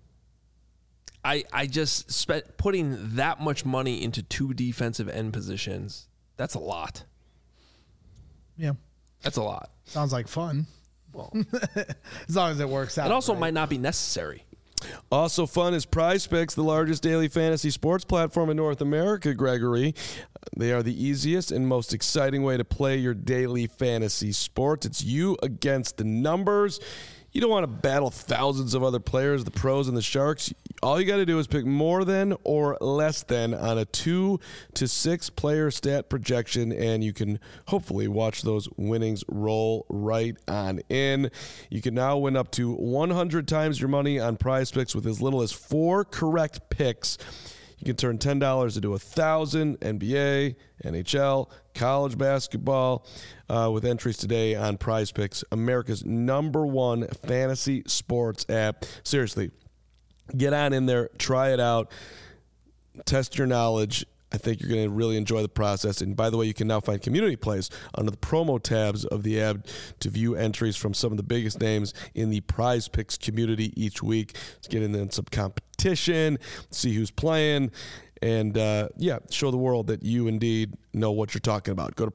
I just putting that much money into 2 defensive end positions, that's a lot. Yeah. That's a lot. Sounds like fun. Well, as long as it works out. It also might not be necessary. Also fun is PrizePicks, the largest daily fantasy sports platform in North America, Gregory. They are the easiest and most exciting way to play your daily fantasy sports. It's you against the numbers. You don't want to battle thousands of other players, the pros and the sharks. All you got to do is pick more than or less than on a 2 to 6 player stat projection, and you can hopefully watch those winnings roll right on in. You can now win up to 100 times your money on PrizePicks with as little as 4 correct picks. You can turn $10 into $1,000, NBA, NHL, college basketball, with entries today on PrizePicks, America's #1 fantasy sports app. Seriously, get on in there, try it out, test your knowledge. I think you're going to really enjoy the process. And by the way, you can now find community plays under the promo tabs of the app to view entries from some of the biggest names in the PrizePicks community each week. Let's get in some competition, see who's playing, and show the world that you indeed know what you're talking about. Go to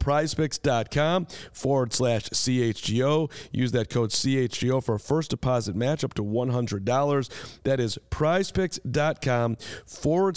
prizepicks.com/CHGO. Use that code CHGO for a first deposit match up to $100. That is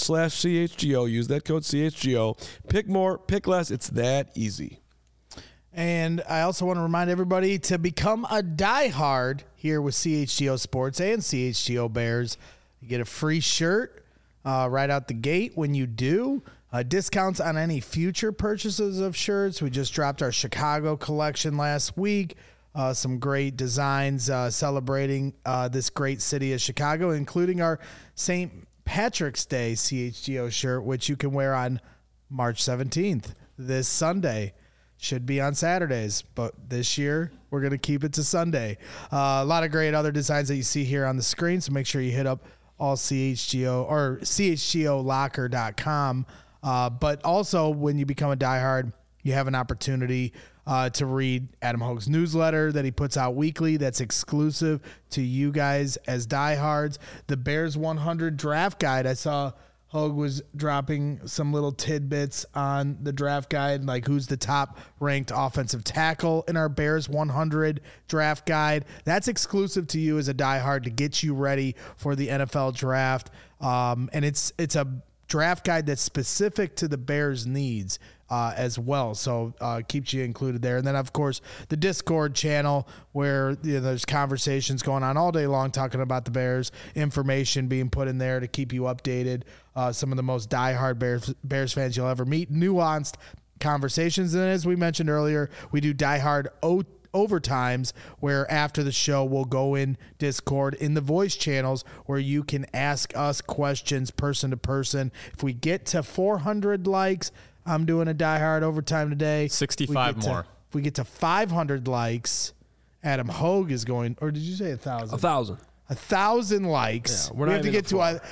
prizepicks.com/CHGO. Use that code CHGO. Pick more, pick less. It's that easy. And I also want to remind everybody to become a diehard here with CHGO Sports and CHGO Bears. You get a free shirt right out the gate when you do. Discounts on any future purchases of shirts. We just dropped our Chicago collection last week. Some great designs celebrating this great city of Chicago, including our St. Patrick's Day CHGO shirt, which you can wear on March 17th, this Sunday. Should be on Saturdays, but this year we're going to keep it to Sunday. A lot of great other designs that you see here on the screen, so make sure you hit up all CHGO or CHGOlocker.com. But also, when you become a diehard, you have an opportunity to read Adam Hoge's newsletter that he puts out weekly that's exclusive to you guys as diehards. The Bears 100 draft guide. I saw Hoge was dropping some little tidbits on the draft guide, like who's the top ranked offensive tackle in our Bears 100 draft guide. That's exclusive to you as a diehard to get you ready for the NFL draft. And it's a draft guide that's specific to the Bears' needs as well. So keeps you included there. And then, of course, the Discord channel where there's conversations going on all day long talking about the Bears, information being put in there to keep you updated. Some of the most diehard Bears fans you'll ever meet. Nuanced conversations. And as we mentioned earlier, we do diehard overtimes where after the show we'll go in Discord in the voice channels where you can ask us questions person to person. If we get to 400 likes, I'm doing a diehard overtime today. 65 more. If we get to 500 likes, Adam Hoge is going, or did you say 1,000? 1,000. 1,000 likes. Yeah, we have to get to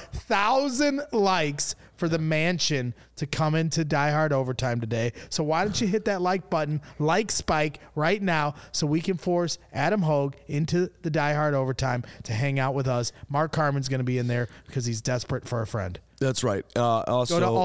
1,000 likes for the mansion to come into Die Hard Overtime today. So why don't you hit that like button, like Spike right now, so we can force Adam Hoge into the Die Hard Overtime to hang out with us. Mark Carman's going to be in there because he's desperate for a friend. That's right. Also, go to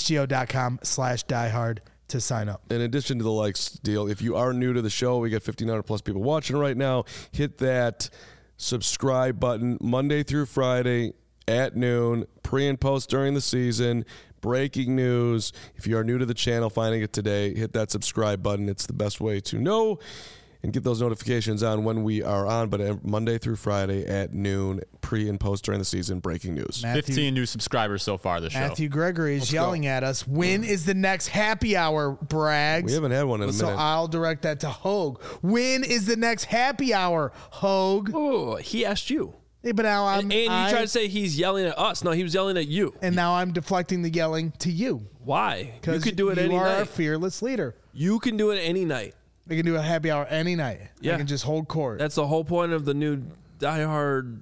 allchgo.com/diehard to sign up. In addition to the likes deal, if you are new to the show, we got 1,500 plus people watching right now. Hit that subscribe button Monday through Friday at noon, pre and post during the season, breaking news. If you are new to the channel, finding it today, hit that subscribe button. It's the best way to know and get those notifications on when we are on, but Monday through Friday at noon, pre and post during the season, breaking news. 15 new subscribers so far this show. Matthew Gregory is yelling at us. When is the next happy hour, Braggs? We haven't had one in a minute. So I'll direct that to Hoge. When is the next happy hour, Hoge? Oh, he asked you. Hey, but now and you try to say he's yelling at us. No, he was yelling at you. And now I'm deflecting the yelling to you. Why? You could do it any night. You are a fearless leader. You can do it any night. We can do a happy hour any night. Yeah. I can just hold court. That's the whole point of the new Die Hard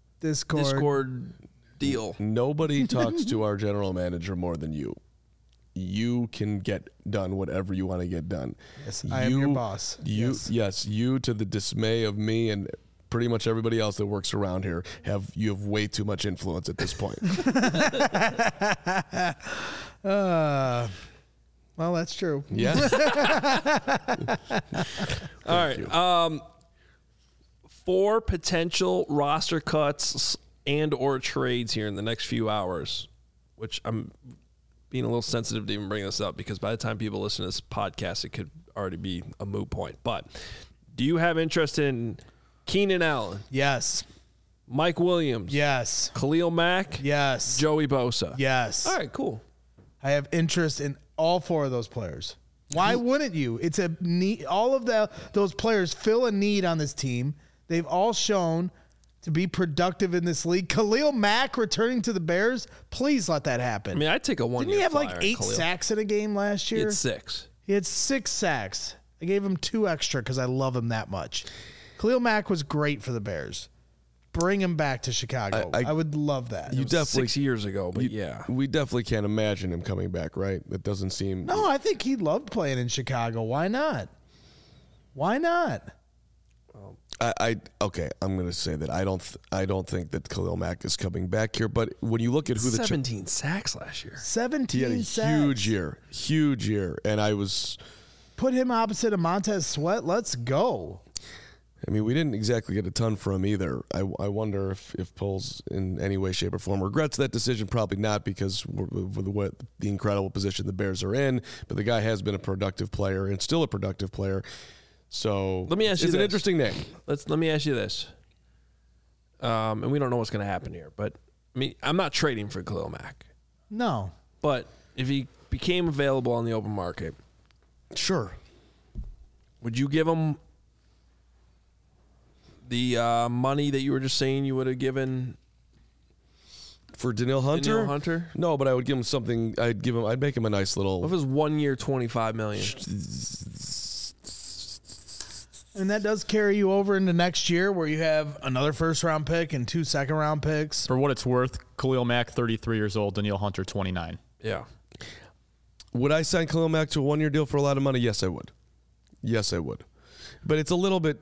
Discord deal. Nobody talks to our general manager more than you. You can get done whatever you want to get done. Yes, I am your boss. Yes, you to the dismay of me and pretty much everybody else that works around here you have way too much influence at this point. Well, that's true. Yeah. All right. 4 potential roster cuts and or trades here in the next few hours, which I'm being a little sensitive to even bring this up because by the time people listen to this podcast, it could already be a moot point. But do you have interest in Keenan Allen? Yes. Mike Williams? Yes. Khalil Mack? Yes. Joey Bosa? Yes. All right, cool. I have interest in all 4 of those players. Why wouldn't you? It's a need. All of those players fill a need on this team. They've all shown to be productive in this league. Khalil Mack returning to the Bears, please let that happen. I mean, I'd take a 1 year Didn't he have flyer like 8 Khalil. sacks in a game last year? He had 6. He had 6 sacks. I gave him 2 extra because I love him that much. Khalil Mack was great for the Bears. Bring him back to Chicago. I would love that. You definitely 6 years ago, but yeah. We definitely can't imagine him coming back, right? It doesn't seem. No, I think he loved playing in Chicago. Why not? Why not? Okay, I'm going to say that I don't think that Khalil Mack is coming back here. But when you look at who 17 sacks last year, 17 he had a sacks. huge year, and I was put him opposite of Montez Sweat. Let's go. I mean, we didn't exactly get a ton for him either. I wonder if Poles in any way, shape, or form regrets that decision. Probably not, because with the incredible position the Bears are in. But the guy has been a productive player and still a productive player. So let me ask you it's an interesting name. Let me ask you this. And we don't know what's going to happen here, but I mean, I'm not trading for Khalil Mack. No. But if he became available on the open market, sure. Would you give him the money that you were just saying you would have given for Danielle Hunter? Danielle Hunter? No, but I would give him something. I'd make him a nice little. What if it was 1 year, $25 million? And that does carry you over into next year, where you have another first-round pick and 2 second-round picks. For what it's worth, Khalil Mack, 33 years old, Danielle Hunter, 29. Yeah. Would I sign Khalil Mack to a 1 year deal for a lot of money? Yes, I would. Yes, I would. But it's a little bit.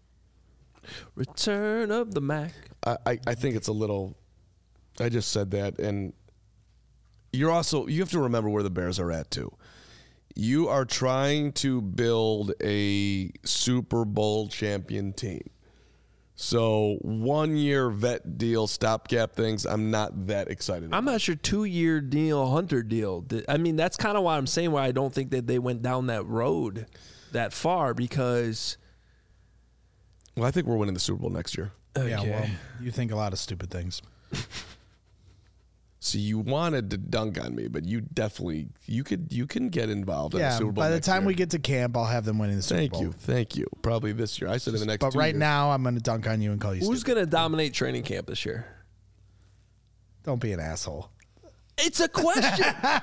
Return of the Mac. I think it's a little. I just said that, and you have to remember where the Bears are at too. You are trying to build a Super Bowl champion team. So 1 year vet deal, stopgap things, I'm not that excited about. I'm not sure 2 year Danielle Hunter deal. I mean, that's kind of why I'm saying why I don't think that they went down that road that far, because. Well, I think we're winning the Super Bowl next year. Okay. Yeah, well, you think a lot of stupid things. So you wanted to dunk on me, but you can get involved in the Super Bowl. By the time year. we get to camp, I'll have them winning the Super Bowl. Thank you. Probably this year. I said in the next. But 2 right years. now, I'm going to dunk on you and call you. Who's going to dominate training camp this year? Don't be an asshole. It's a question.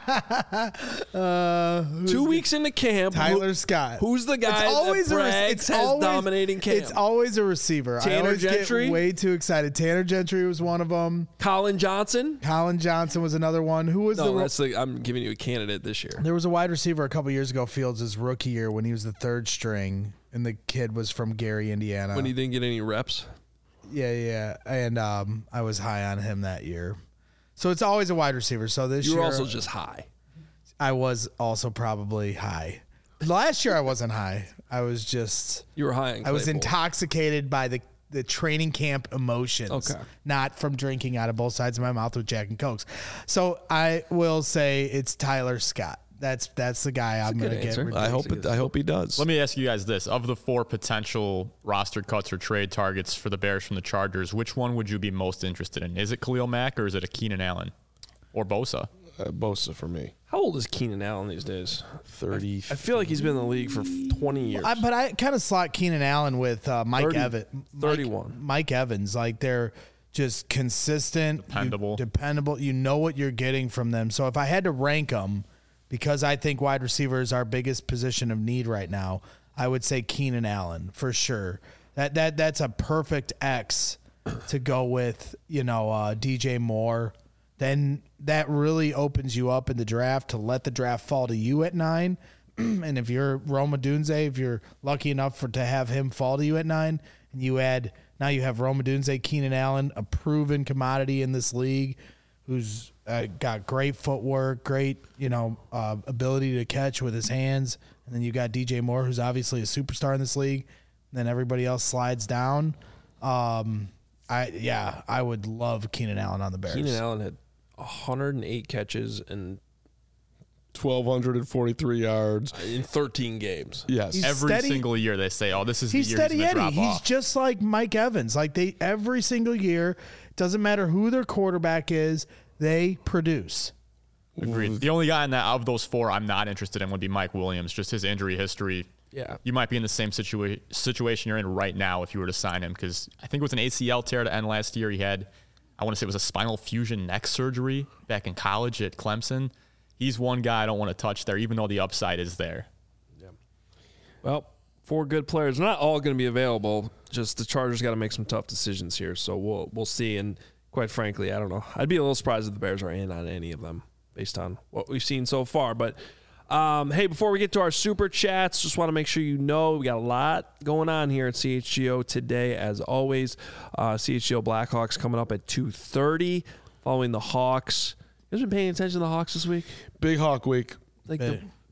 2 weeks into camp, Tyler Scott. Who's the guy that brags has dominating camp? It's always a receiver. Tanner I always Gentry? get way too excited. Tanner Gentry was one of them. Colin Johnson? Colin Johnson was another one. Who was I'm giving you a candidate this year. There was a wide receiver a couple years ago, Fields' rookie year, when he was the third string, and the kid was from Gary, Indiana. When he didn't get any reps? Yeah. And I was high on him that year. So it's always a wide receiver. So this year. You were also just high. I was also probably high. Last year I wasn't high. I was just. You were high. I was intoxicated by the training camp emotions. Okay. Not from drinking out of both sides of my mouth with Jack and Cokes. So I will say it's Tyler Scott. That's the guy I'm going to get. I hope he does. Let me ask you guys this: of the 4 potential roster cuts or trade targets for the Bears from the Chargers, which one would you be most interested in? Is it Khalil Mack or is it a Keenan Allen or Bosa? Bosa for me. How old is Keenan Allen these days? 30. I feel like he's been in the league for 20 years. But I kind of slot Keenan Allen with Mike Evans. 31. Mike Evans. Like, they're just consistent. Dependable. You know what you're getting from them. So if I had to rank them, because I think wide receiver is our biggest position of need right now, I would say Keenan Allen for sure. That's a perfect X to go with, DJ Moore. Then that really opens you up in the draft to let the draft fall to you at 9. And if you're Rome Odunze, if you're lucky enough to have him fall to you at 9, and you have Rome Odunze, Keenan Allen, a proven commodity in this league, who's got great footwork, great ability to catch with his hands, and then you got DJ Moore, who's obviously a superstar in this league. And then everybody else slides down. I would love Keenan Allen on the Bears. Keenan Allen had 108 catches and 1,243 yards in 13 games. Yes, every single year they say, "Oh, this is the year he's going to drop off." He's just like Mike Evans. Like every single year, doesn't matter who their quarterback is, they produce. Agreed. The only guy in that of those 4 I'm not interested in would be Mike Williams. Just his injury history. Yeah, you might be in the same situation you're in right now if you were to sign him, because I think it was an ACL tear to end last year. He had, I want to say it was a spinal fusion neck surgery back in college at Clemson. He's one guy I don't want to touch there, even though the upside is there. Yeah. Well, 4 good players. They're not all going to be available. Just the Chargers got to make some tough decisions here. So we'll see. And quite frankly, I don't know. I'd be a little surprised if the Bears are in on any of them based on what we've seen so far. But hey, before we get to our super chats, just want to make sure we got a lot going on here at CHGO today. As always, CHGO Blackhawks coming up at 2:30, following the Hawks. You guys been paying attention to the Hawks this week? Big Hawk week. Like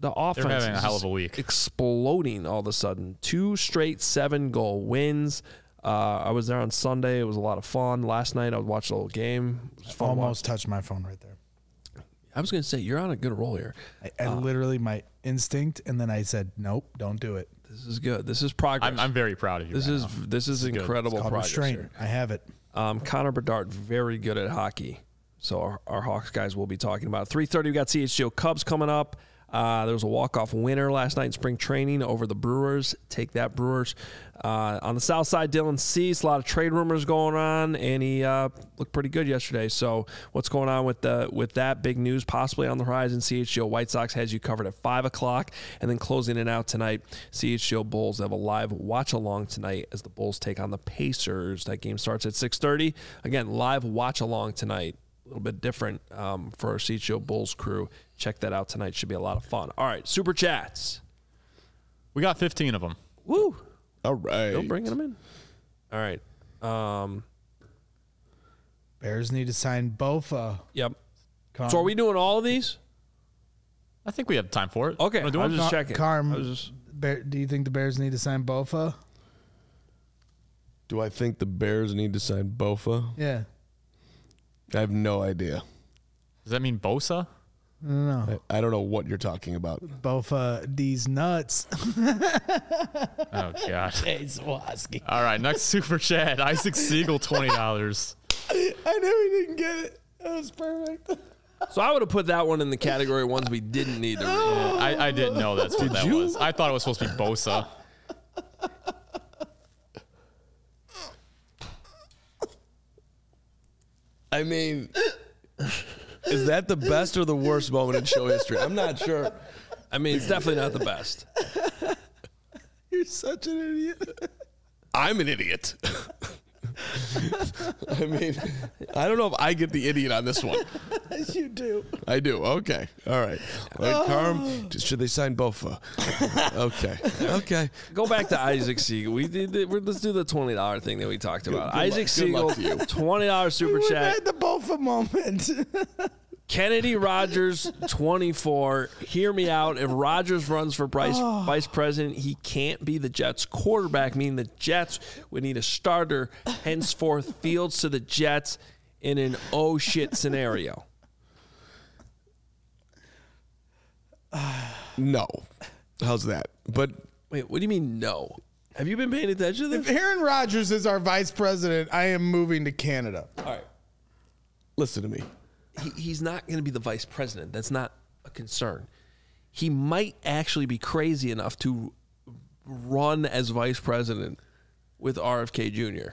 the offense They're having is a hell of a week. exploding all of a sudden. 2 straight 7-goal wins. I was there on Sunday. It was a lot of fun. Last night I watched a little game. It was fun. Almost touched my phone right there. I was going to say, you're on a good roll here. I literally, my instinct, and then I said, nope, don't do it. This is good. This is progress. I'm very proud of you. This is incredible progress here. I have it. Connor Bedard, very good at hockey. So our Hawks guys will be talking about it. 3:30, we got CHGO Cubs coming up. There was a walk-off winner last night in spring training over the Brewers. Take that, Brewers. On the south side, Dylan Cease, a lot of trade rumors going on, and he looked pretty good yesterday. So what's going on with that big news possibly on the horizon? CHGO White Sox has you covered at 5 o'clock, and then closing it out tonight, CHGO Bulls have a live watch-along tonight as the Bulls take on the Pacers. That game starts at 6:30. Again, live watch-along tonight. A little bit different for our CHGO Bulls crew. Check that out tonight. Should be a lot of fun. All right, Super Chats. We got 15 of them. Woo. All right. Still bringing them in. All right. Bears need to sign Bofa. Yep. So are we doing all of these? I think we have time for it. Okay, I was just checking. Do you think the Bears need to sign Bofa? Do I think the Bears need to sign Bofa? Yeah. I have no idea. Does that mean Bosa? No. I don't know what you're talking about. Bofa, these nuts. Oh, God. All right, next Super Chat. Isaac Siegel, $20. I knew he didn't get it. That was perfect. So I would have put that one in the category of ones we didn't need to read. Yeah, I didn't know that's what that was. I thought it was supposed to be Bosa. I mean, is that the best or the worst moment in show history? I'm not sure. I mean, it's definitely not the best. You're such an idiot. I'm an idiot. I mean, I don't know if I get the idiot on this one. You do. I do. Okay. All right. Carm, should they sign Bofa? Okay. Go back to Isaac Siegel. Let's do the $20 thing that we talked about. Isaac Siegel, $20 Super Chat. We had the Bofa moment. Kennedy Rogers, 24. Hear me out. If Rogers runs for vice president, he can't be the Jets quarterback, meaning the Jets would need a starter. Henceforth, Fields to the Jets in an oh shit scenario. No. How's that? But wait, what do you mean no? Have you been paying attention to If this? Aaron Rodgers is our vice president, I am moving to Canada. All right. listen to me. He's not going to be the vice president. That's not a concern. He might actually be crazy enough to run as vice president with RFK Jr.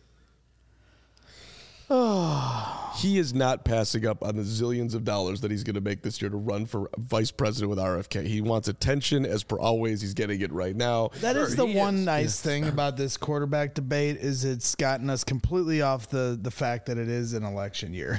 He is not passing up on the zillions of dollars that he's going to make this year to run for vice president with RFK. He wants attention, as per always. He's getting it right now. That is the one nice thing about this quarterback debate is it's gotten us completely off the fact that it is an election year.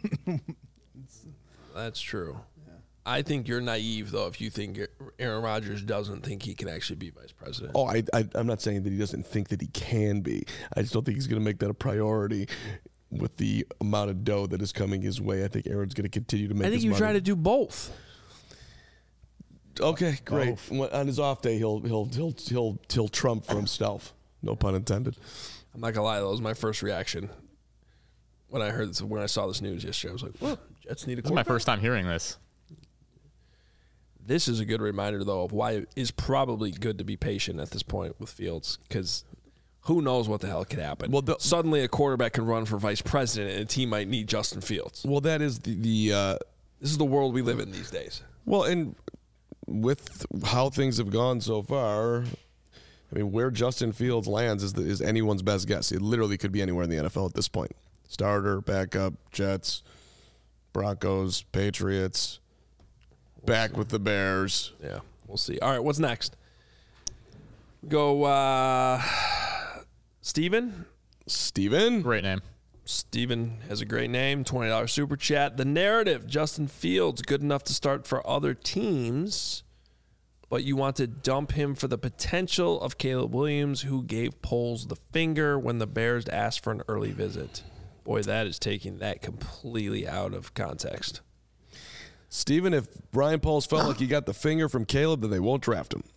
That's true. Yeah. I think you're naive, though, if you think Aaron Rodgers doesn't think he can actually be vice president. Oh, I'm not saying that he doesn't think that he can be. I just don't think he's going to make that a priority. With the amount of dough that is coming his way, I think Aaron's going to continue to make. I think you try to do both. Okay, great. Both. On his off day, he'll Trump for himself. No pun intended. I'm not gonna lie, that was my first reaction when I saw this news yesterday. I was like, "Well, Jets need a quarterback." This is my first time hearing this. This is a good reminder, though, of why it is probably good to be patient at this point with Fields, because who knows what the hell could happen. Well, suddenly a quarterback can run for vice president, and a team might need Justin Fields. Well, that is this is the world we live in these days. Well, and with how things have gone so far, I mean, where Justin Fields lands is anyone's best guess. It literally could be anywhere in the NFL at this point. Starter, backup, Jets, Broncos, Patriots, back with the Bears. Yeah, we'll see. All right, what's next? Go, Steven? Great name. Steven has a great name. $20 super chat. The narrative, Justin Fields, good enough to start for other teams, but you want to dump him for the potential of Caleb Williams, who gave Poles the finger when the Bears asked for an early visit. Boy, that is taking that completely out of context. Steven, if Brian Pauls felt like he got the finger from Caleb, then they won't draft him.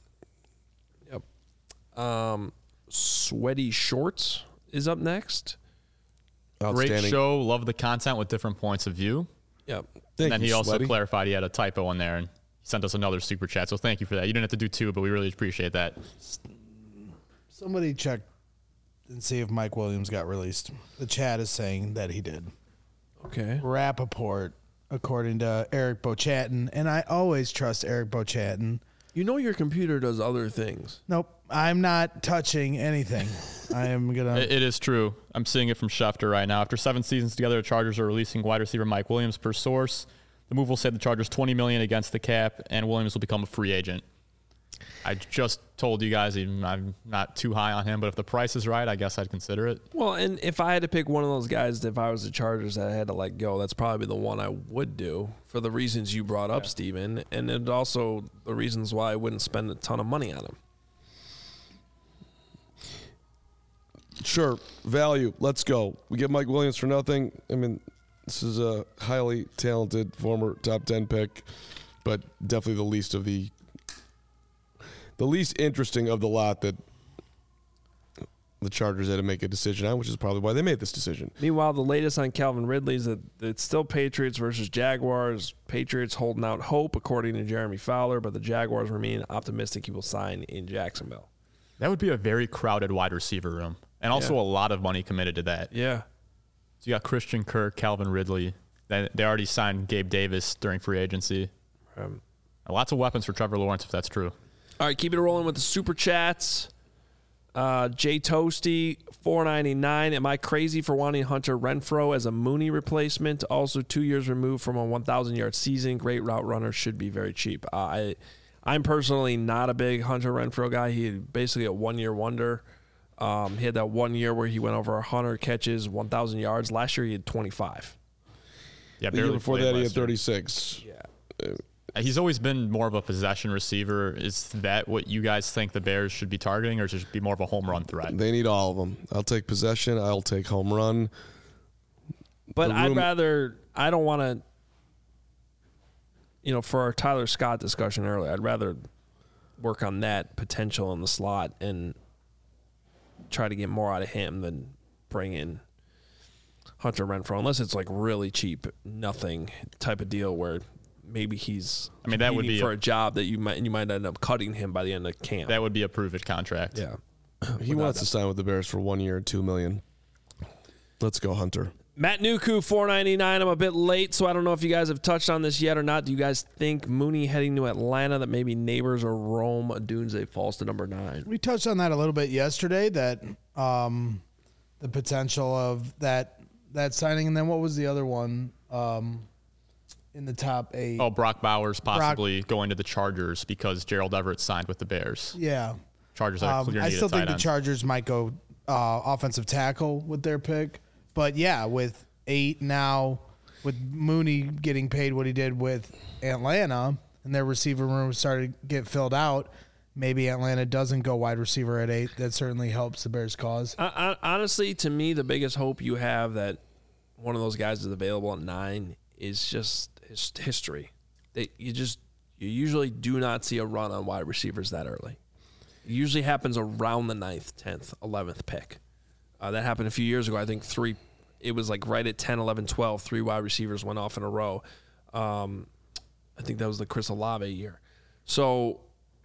Yep. Sweaty Shorts is up next. Great show. Love the content with different points of view. Yep. And then he also clarified he had a typo in there and he sent us another super chat. So thank you for that. You didn't have to do 2, but we really appreciate that. Somebody check and see if Mike Williams got released. The chat is saying that he did. Okay. Rappaport, according to Eric Bochatin, and I always trust Eric Bochatin. You know your computer does other things. Nope, I'm not touching anything. I am gonna. It is true. I'm seeing it from Schefter right now. After 7 seasons together, the Chargers are releasing wide receiver Mike Williams per source. The move will save the Chargers $20 million against the cap, and Williams will become a free agent. I just told you guys I'm not too high on him, but if the price is right, I guess I'd consider it. Well, and if I had to pick one of those guys, if I was the Chargers that I had to let go, that's probably the one I would do for the reasons you brought up, Steven, and it also the reasons why I wouldn't spend a ton of money on him. Sure, value. Let's go. We get Mike Williams for nothing. I mean, this is a highly talented former top 10 pick, but definitely the least interesting of the lot that the Chargers had to make a decision on, which is probably why they made this decision. Meanwhile, the latest on Calvin Ridley is that it's still Patriots versus Jaguars. Patriots holding out hope, according to Jeremy Fowler, but the Jaguars remain optimistic he will sign in Jacksonville. That would be a very crowded wide receiver room, and also a lot of money committed to that. Yeah. So you got Christian Kirk, Calvin Ridley. They already signed Gabe Davis during free agency. Lots of weapons for Trevor Lawrence, if that's true. All right, keep it rolling with the super chats. Jay Toasty, $4.99. Am I crazy for wanting Hunter Renfrow as a Mooney replacement? Also, 2 years removed from a 1,000-yard season. Great route runner, should be very cheap. I'm personally not a big Hunter Renfrow guy. He had basically a one-year wonder. He had that 1 year where he went over 100 catches, 1,000 yards. Last year, he had 25. Yeah, the year before that, he had 36. Yeah. He's always been more of a possession receiver. Is that what you guys think the Bears should be targeting, or should it be more of a home run threat? They need all of them. I'll take possession. I'll take home run. But I don't want to, for our Tyler Scott discussion earlier, I'd rather work on that potential in the slot and try to get more out of him than bring in Hunter Renfrow, unless it's like really cheap, nothing type of deal where maybe he's that would be for a job that you might end up cutting him by the end of camp. That would be a prove it contract. Yeah. He wants to sign with the Bears for 1 year, $2 million. Let's go, Hunter. Matt Nuku, $4.99. I'm a bit late, so I don't know if you guys have touched on this yet or not. Do you guys think Mooney heading to Atlanta, that maybe Neighbors or Rome Odunze falls to number 9? We touched on that a little bit yesterday, that the potential of that signing, and then what was the other one? In the top 8. Oh, Brock Bowers possibly going to the Chargers because Gerald Everett signed with the Bears. Yeah. Chargers are clear I still think the end. Chargers might go offensive tackle with their pick. But, yeah, with 8 now, with Mooney getting paid what he did with Atlanta, and their receiver room started to get filled out, maybe Atlanta doesn't go wide receiver at 8. That certainly helps the Bears' cause. Honestly, to me, the biggest hope you have that one of those guys is available at 9 is just history. You usually do not see a run on wide receivers that early. It usually happens around the 9th, 10th, 11th pick. That happened a few years ago. I think it was like right at 10, 11, 12, 3 wide receivers went off in a row. I think that was the Chris Olave year. So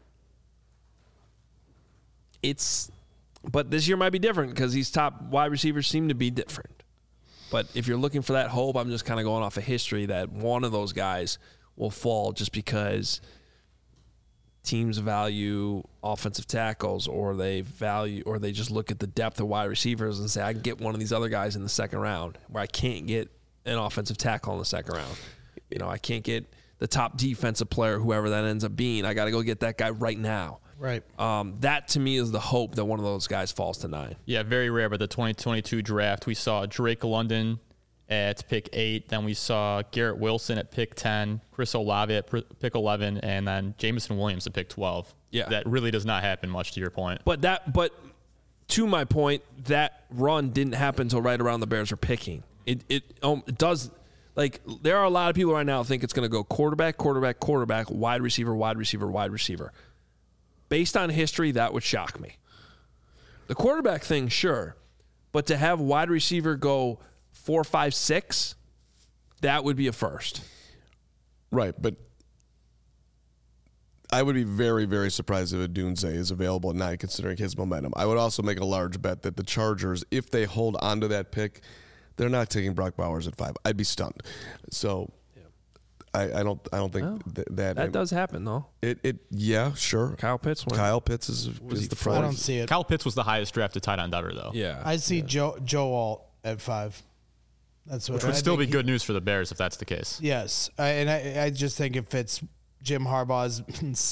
but this year might be different because these top wide receivers seem to be different. But if you're looking for that hope, I'm just kind of going off of history that one of those guys will fall just because teams value offensive tackles, or they just look at the depth of wide receivers and say, I can get one of these other guys in the second round, where I can't get an offensive tackle in the second round. I can't get the top defensive player, whoever that ends up being. I got to go get that guy right now. Right. That to me is the hope that one of those guys falls to 9. Yeah, very rare. But the 2022 draft, we saw Drake London at pick 8. Then we saw Garrett Wilson at pick 10, Chris Olave at pick 11, and then Jameson Williams at pick 12. Yeah, that really does not happen much, to your point. But to my point, that run didn't happen until right around the Bears are picking. It does. Like, there are a lot of people right now who think it's going to go quarterback, wide receiver. Based on history, that would shock me. The quarterback thing, sure. But to have wide receiver go 4, 5, 6, that would be a first. Right, but I would be very, very surprised if Odunze is available at 9, considering his momentum. I would also make a large bet that the Chargers, if they hold onto that pick, they're not taking Brock Bowers at 5. I'd be stunned. So I don't think that does happen though. Yeah, sure. Kyle Pitts is the front. I don't see it. Kyle Pitts was the highest drafted tight end ever, though. Yeah, I see Joe Alt at 5. That's what which would still be good news for the Bears if that's the case. Yes, I just think it fits Jim Harbaugh's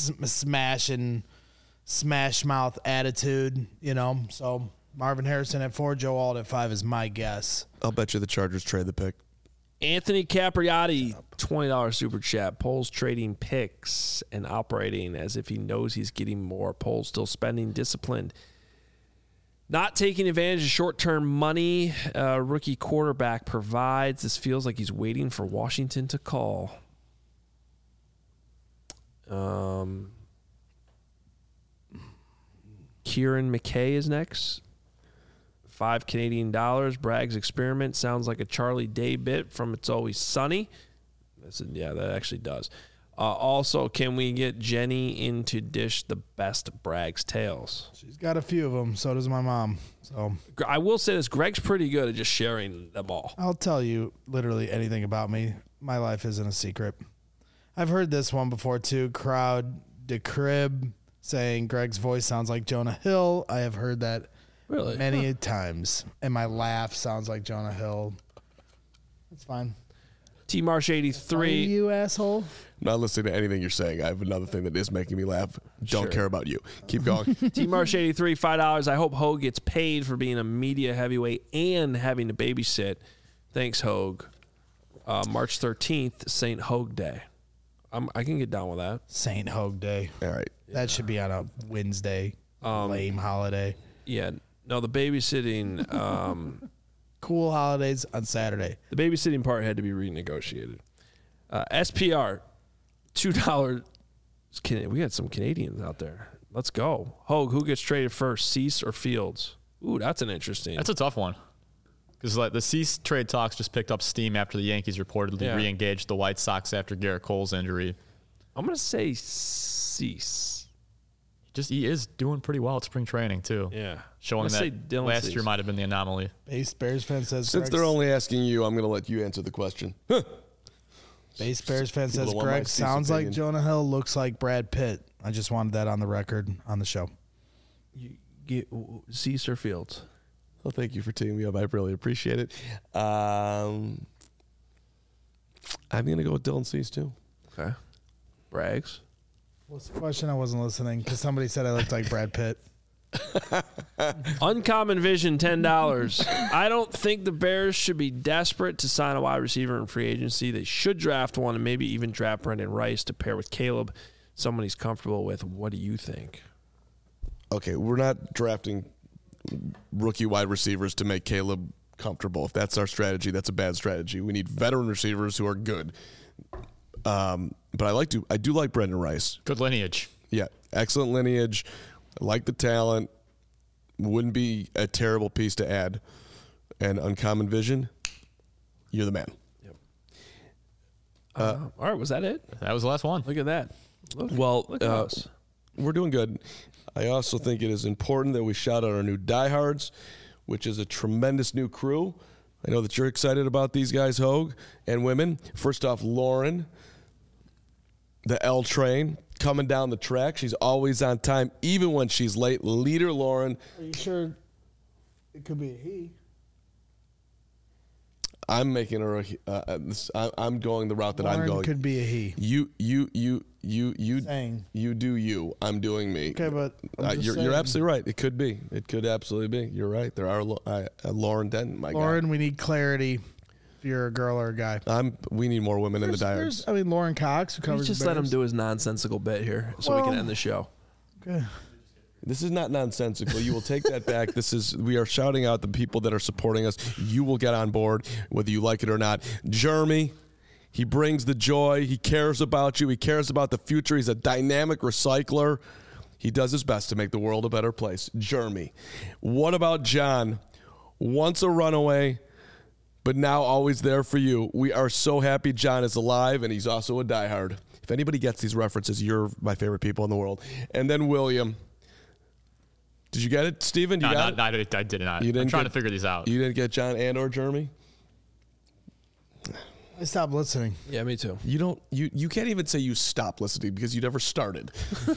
smash mouth attitude. So Marvin Harrison at 4, Joe Alt at 5 is my guess. I'll bet you the Chargers trade the pick. Anthony Capriati, $20 super chat. Poles trading picks and operating as if he knows he's getting more. Poles still spending disciplined. Not taking advantage of short-term money rookie quarterback provides. This feels like he's waiting for Washington to call. Kieran McKay is next. $5 Canadian. Bragg's experiment sounds like a Charlie Day bit from It's Always Sunny. Yeah, that actually does. Also, can we get Jenny in to dish the best Bragg's tales? She's got a few of them. So does my mom. So I will say this: Greg's pretty good at just sharing them all. I'll tell you literally anything about me. My life isn't a secret. I've heard this one before too. Crowd de Crib saying Greg's voice sounds like Jonah Hill. I have heard that. Really? Many times. And my laugh sounds like Jonah Hill. It's fine. T Marsh 83. You asshole. Not listening to anything you're saying. I have another thing that is making me laugh. Don't care about you. Keep going. T Marsh 83, $5. I hope Hogue gets paid for being a media heavyweight and having to babysit. Thanks, Hogue. March 13th, St. Hogue Day. I can get down with that. St. Hogue Day. All right. That should be on a Wednesday. Lame holiday. Yeah. No, the babysitting. Cool holidays on Saturday. The babysitting part had to be renegotiated. SPR, $2. We got some Canadians out there. Let's go. Hogue, who gets traded first, Cease or Fields? Ooh, that's an interesting. That's a tough one. Because the Cease trade talks just picked up steam after the Yankees reportedly re-engaged the White Sox after Garrett Cole's injury. I'm going to say Cease. He is doing pretty well at spring training, too. Yeah. Showing that last year might have been the anomaly. Bears fan says Since they're only asking you, I'm going to let you answer the question. Base Bears fan says Greg sounds like Jonah Hill, looks like Brad Pitt. I just wanted that on the record on the show. You get Cease or Fields? Well, thank you for teeing me up. I really appreciate it. I'm going to go with Dylan Cease, too. Okay. Braggs? What's the question? I wasn't listening because somebody said I looked like Brad Pitt. Uncommon Vision, $10. I don't think the Bears should be desperate to sign a wide receiver in free agency. They should draft one and maybe even draft Brendan Rice to pair with Caleb, someone he's comfortable with. What do you think? Okay, we're not drafting rookie wide receivers to make Caleb comfortable. If that's our strategy, that's a bad strategy. We need veteran receivers who are good. But I do like Brendan Rice. Good lineage. Yeah, excellent lineage. I like the talent. Wouldn't be a terrible piece to add. And Uncommon Vision, you're the man. Yep. All right, was that it? That was the last one. Look at that. Look at us. We're doing good. I also think it is important that we shout out our new Diehards, which is a tremendous new crew. I know that you're excited about these guys, Hogue, and women. First off, Lauren, the L train, coming down the track. She's always on time, even when she's late. Leader Lauren. Are you sure it could be a he? I'm making her. I'm going the route that Lauren I'm going. Could be a he. You Saying. You do you. I'm doing me. Okay, but you're absolutely right. It could be. It could absolutely be. You're right. There are Lauren Denton. Lauren, we need clarity. If you're a girl or a guy, we need more women in the Diehards. Lauren Cox, who covers. Just let him do his nonsensical bit here, so we can end the show. Okay. This is not nonsensical. You will take that back. We are shouting out the people that are supporting us. You will get on board, whether you like it or not. Jeremy, he brings the joy. He cares about you. He cares about the future. He's a dynamic recycler. He does his best to make the world a better place. Jeremy. What about John? Once a runaway, but now always there for you. We are so happy John is alive, and he's also a diehard. If anybody gets these references, you're my favorite people in the world. And then William. Did you get it, Steven? No, I did not. I'm trying to figure these out. You didn't get John and or Jeremy? I stopped listening. Yeah, me too. You can't even say you stopped listening because you never started.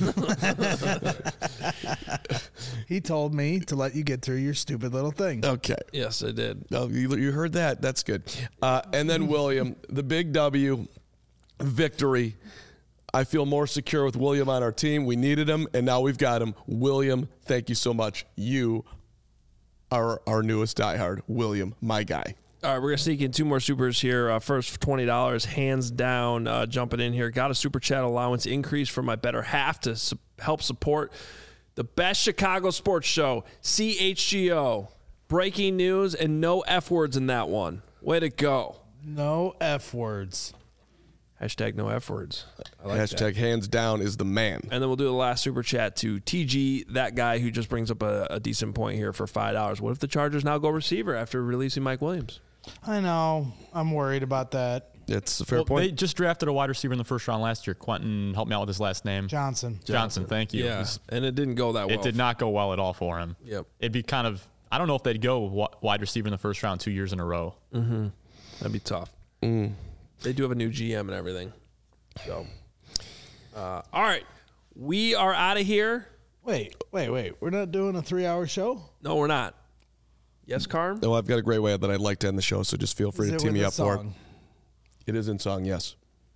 He told me to let you get through your stupid little thing. Okay. Yes, I did. Oh, you heard that. That's good. And then William, the big W, victory. I feel more secure with William on our team. We needed him, and now we've got him. William, thank you so much. You are our newest diehard. William, my guy. All right, we're going to sneak in 2 more supers here. First, for $20, hands down, jumping in here. Got a super chat allowance increase for my better half to help support the best Chicago sports show, CHGO. Breaking news and no F words in that one. Way to go. No F words. Hashtag no F words. I like Hashtag that. Hands down is the man. And then we'll do the last super chat to TG, that guy who just brings up a decent point here for $5. What if the Chargers now go receiver after releasing Mike Williams? I know. I'm worried about that. It's a fair point. They just drafted a wide receiver in the first round last year. Quentin, help me out with his last name. Johnson, thank you. Yeah, and it didn't go that well. It did not go well at all for him. Yep. It'd be kind of, I don't know if they'd go wide receiver in the first round 2 years in a row. Mm-hmm. That'd be tough. They do have a new GM and everything. So, all right, we are out of here. Wait. We're not doing a 3-hour show? No, we're not. Yes, Carm? No, I've got a great way that I'd like to end the show, so just feel free to tee me up for it. It is in song, yes.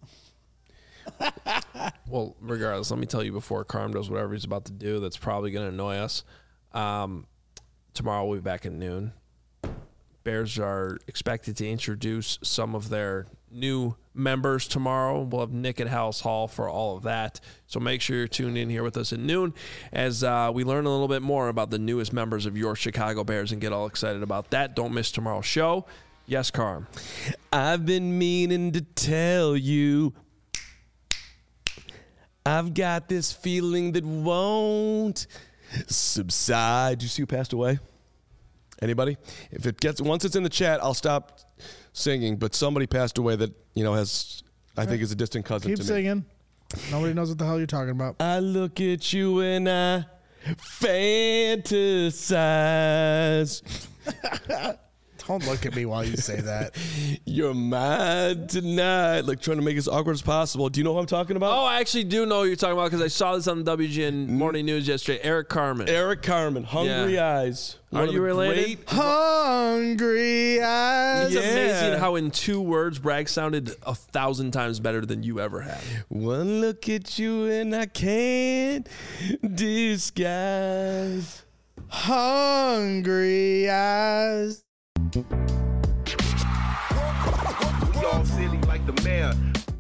Well, regardless, let me tell you before Carm does whatever he's about to do that's probably going to annoy us. Tomorrow we'll be back at noon. Bears are expected to introduce some of their new members tomorrow. We'll have Nick at House Hall for all of that. So make sure you're tuned in here with us at noon as we learn a little bit more about the newest members of your Chicago Bears and get all excited about that. Don't miss tomorrow's show. Yes, Carm. I've been meaning to tell you I've got this feeling that won't subside. Did you see who passed away? Anybody? If it gets once it's in the chat, I'll stop singing. But somebody passed away that has, I think, is a distant cousin. Keep to me. singing. Nobody knows what the hell you're talking about. I look at you and I fantasize. Don't look at me while you say that. You're mine tonight. Like trying to make it as awkward as possible. Do you know what I'm talking about? Oh, I actually do know what you're talking about because I saw this on the WGN Morning News yesterday. Eric Carmen. Hungry Eyes. Are you related? Hungry Eyes. It's amazing how in 2 words Bragg sounded 1,000 times better than you ever have. One look at you and I can't disguise. Hungry Eyes. We all silly like the mayor.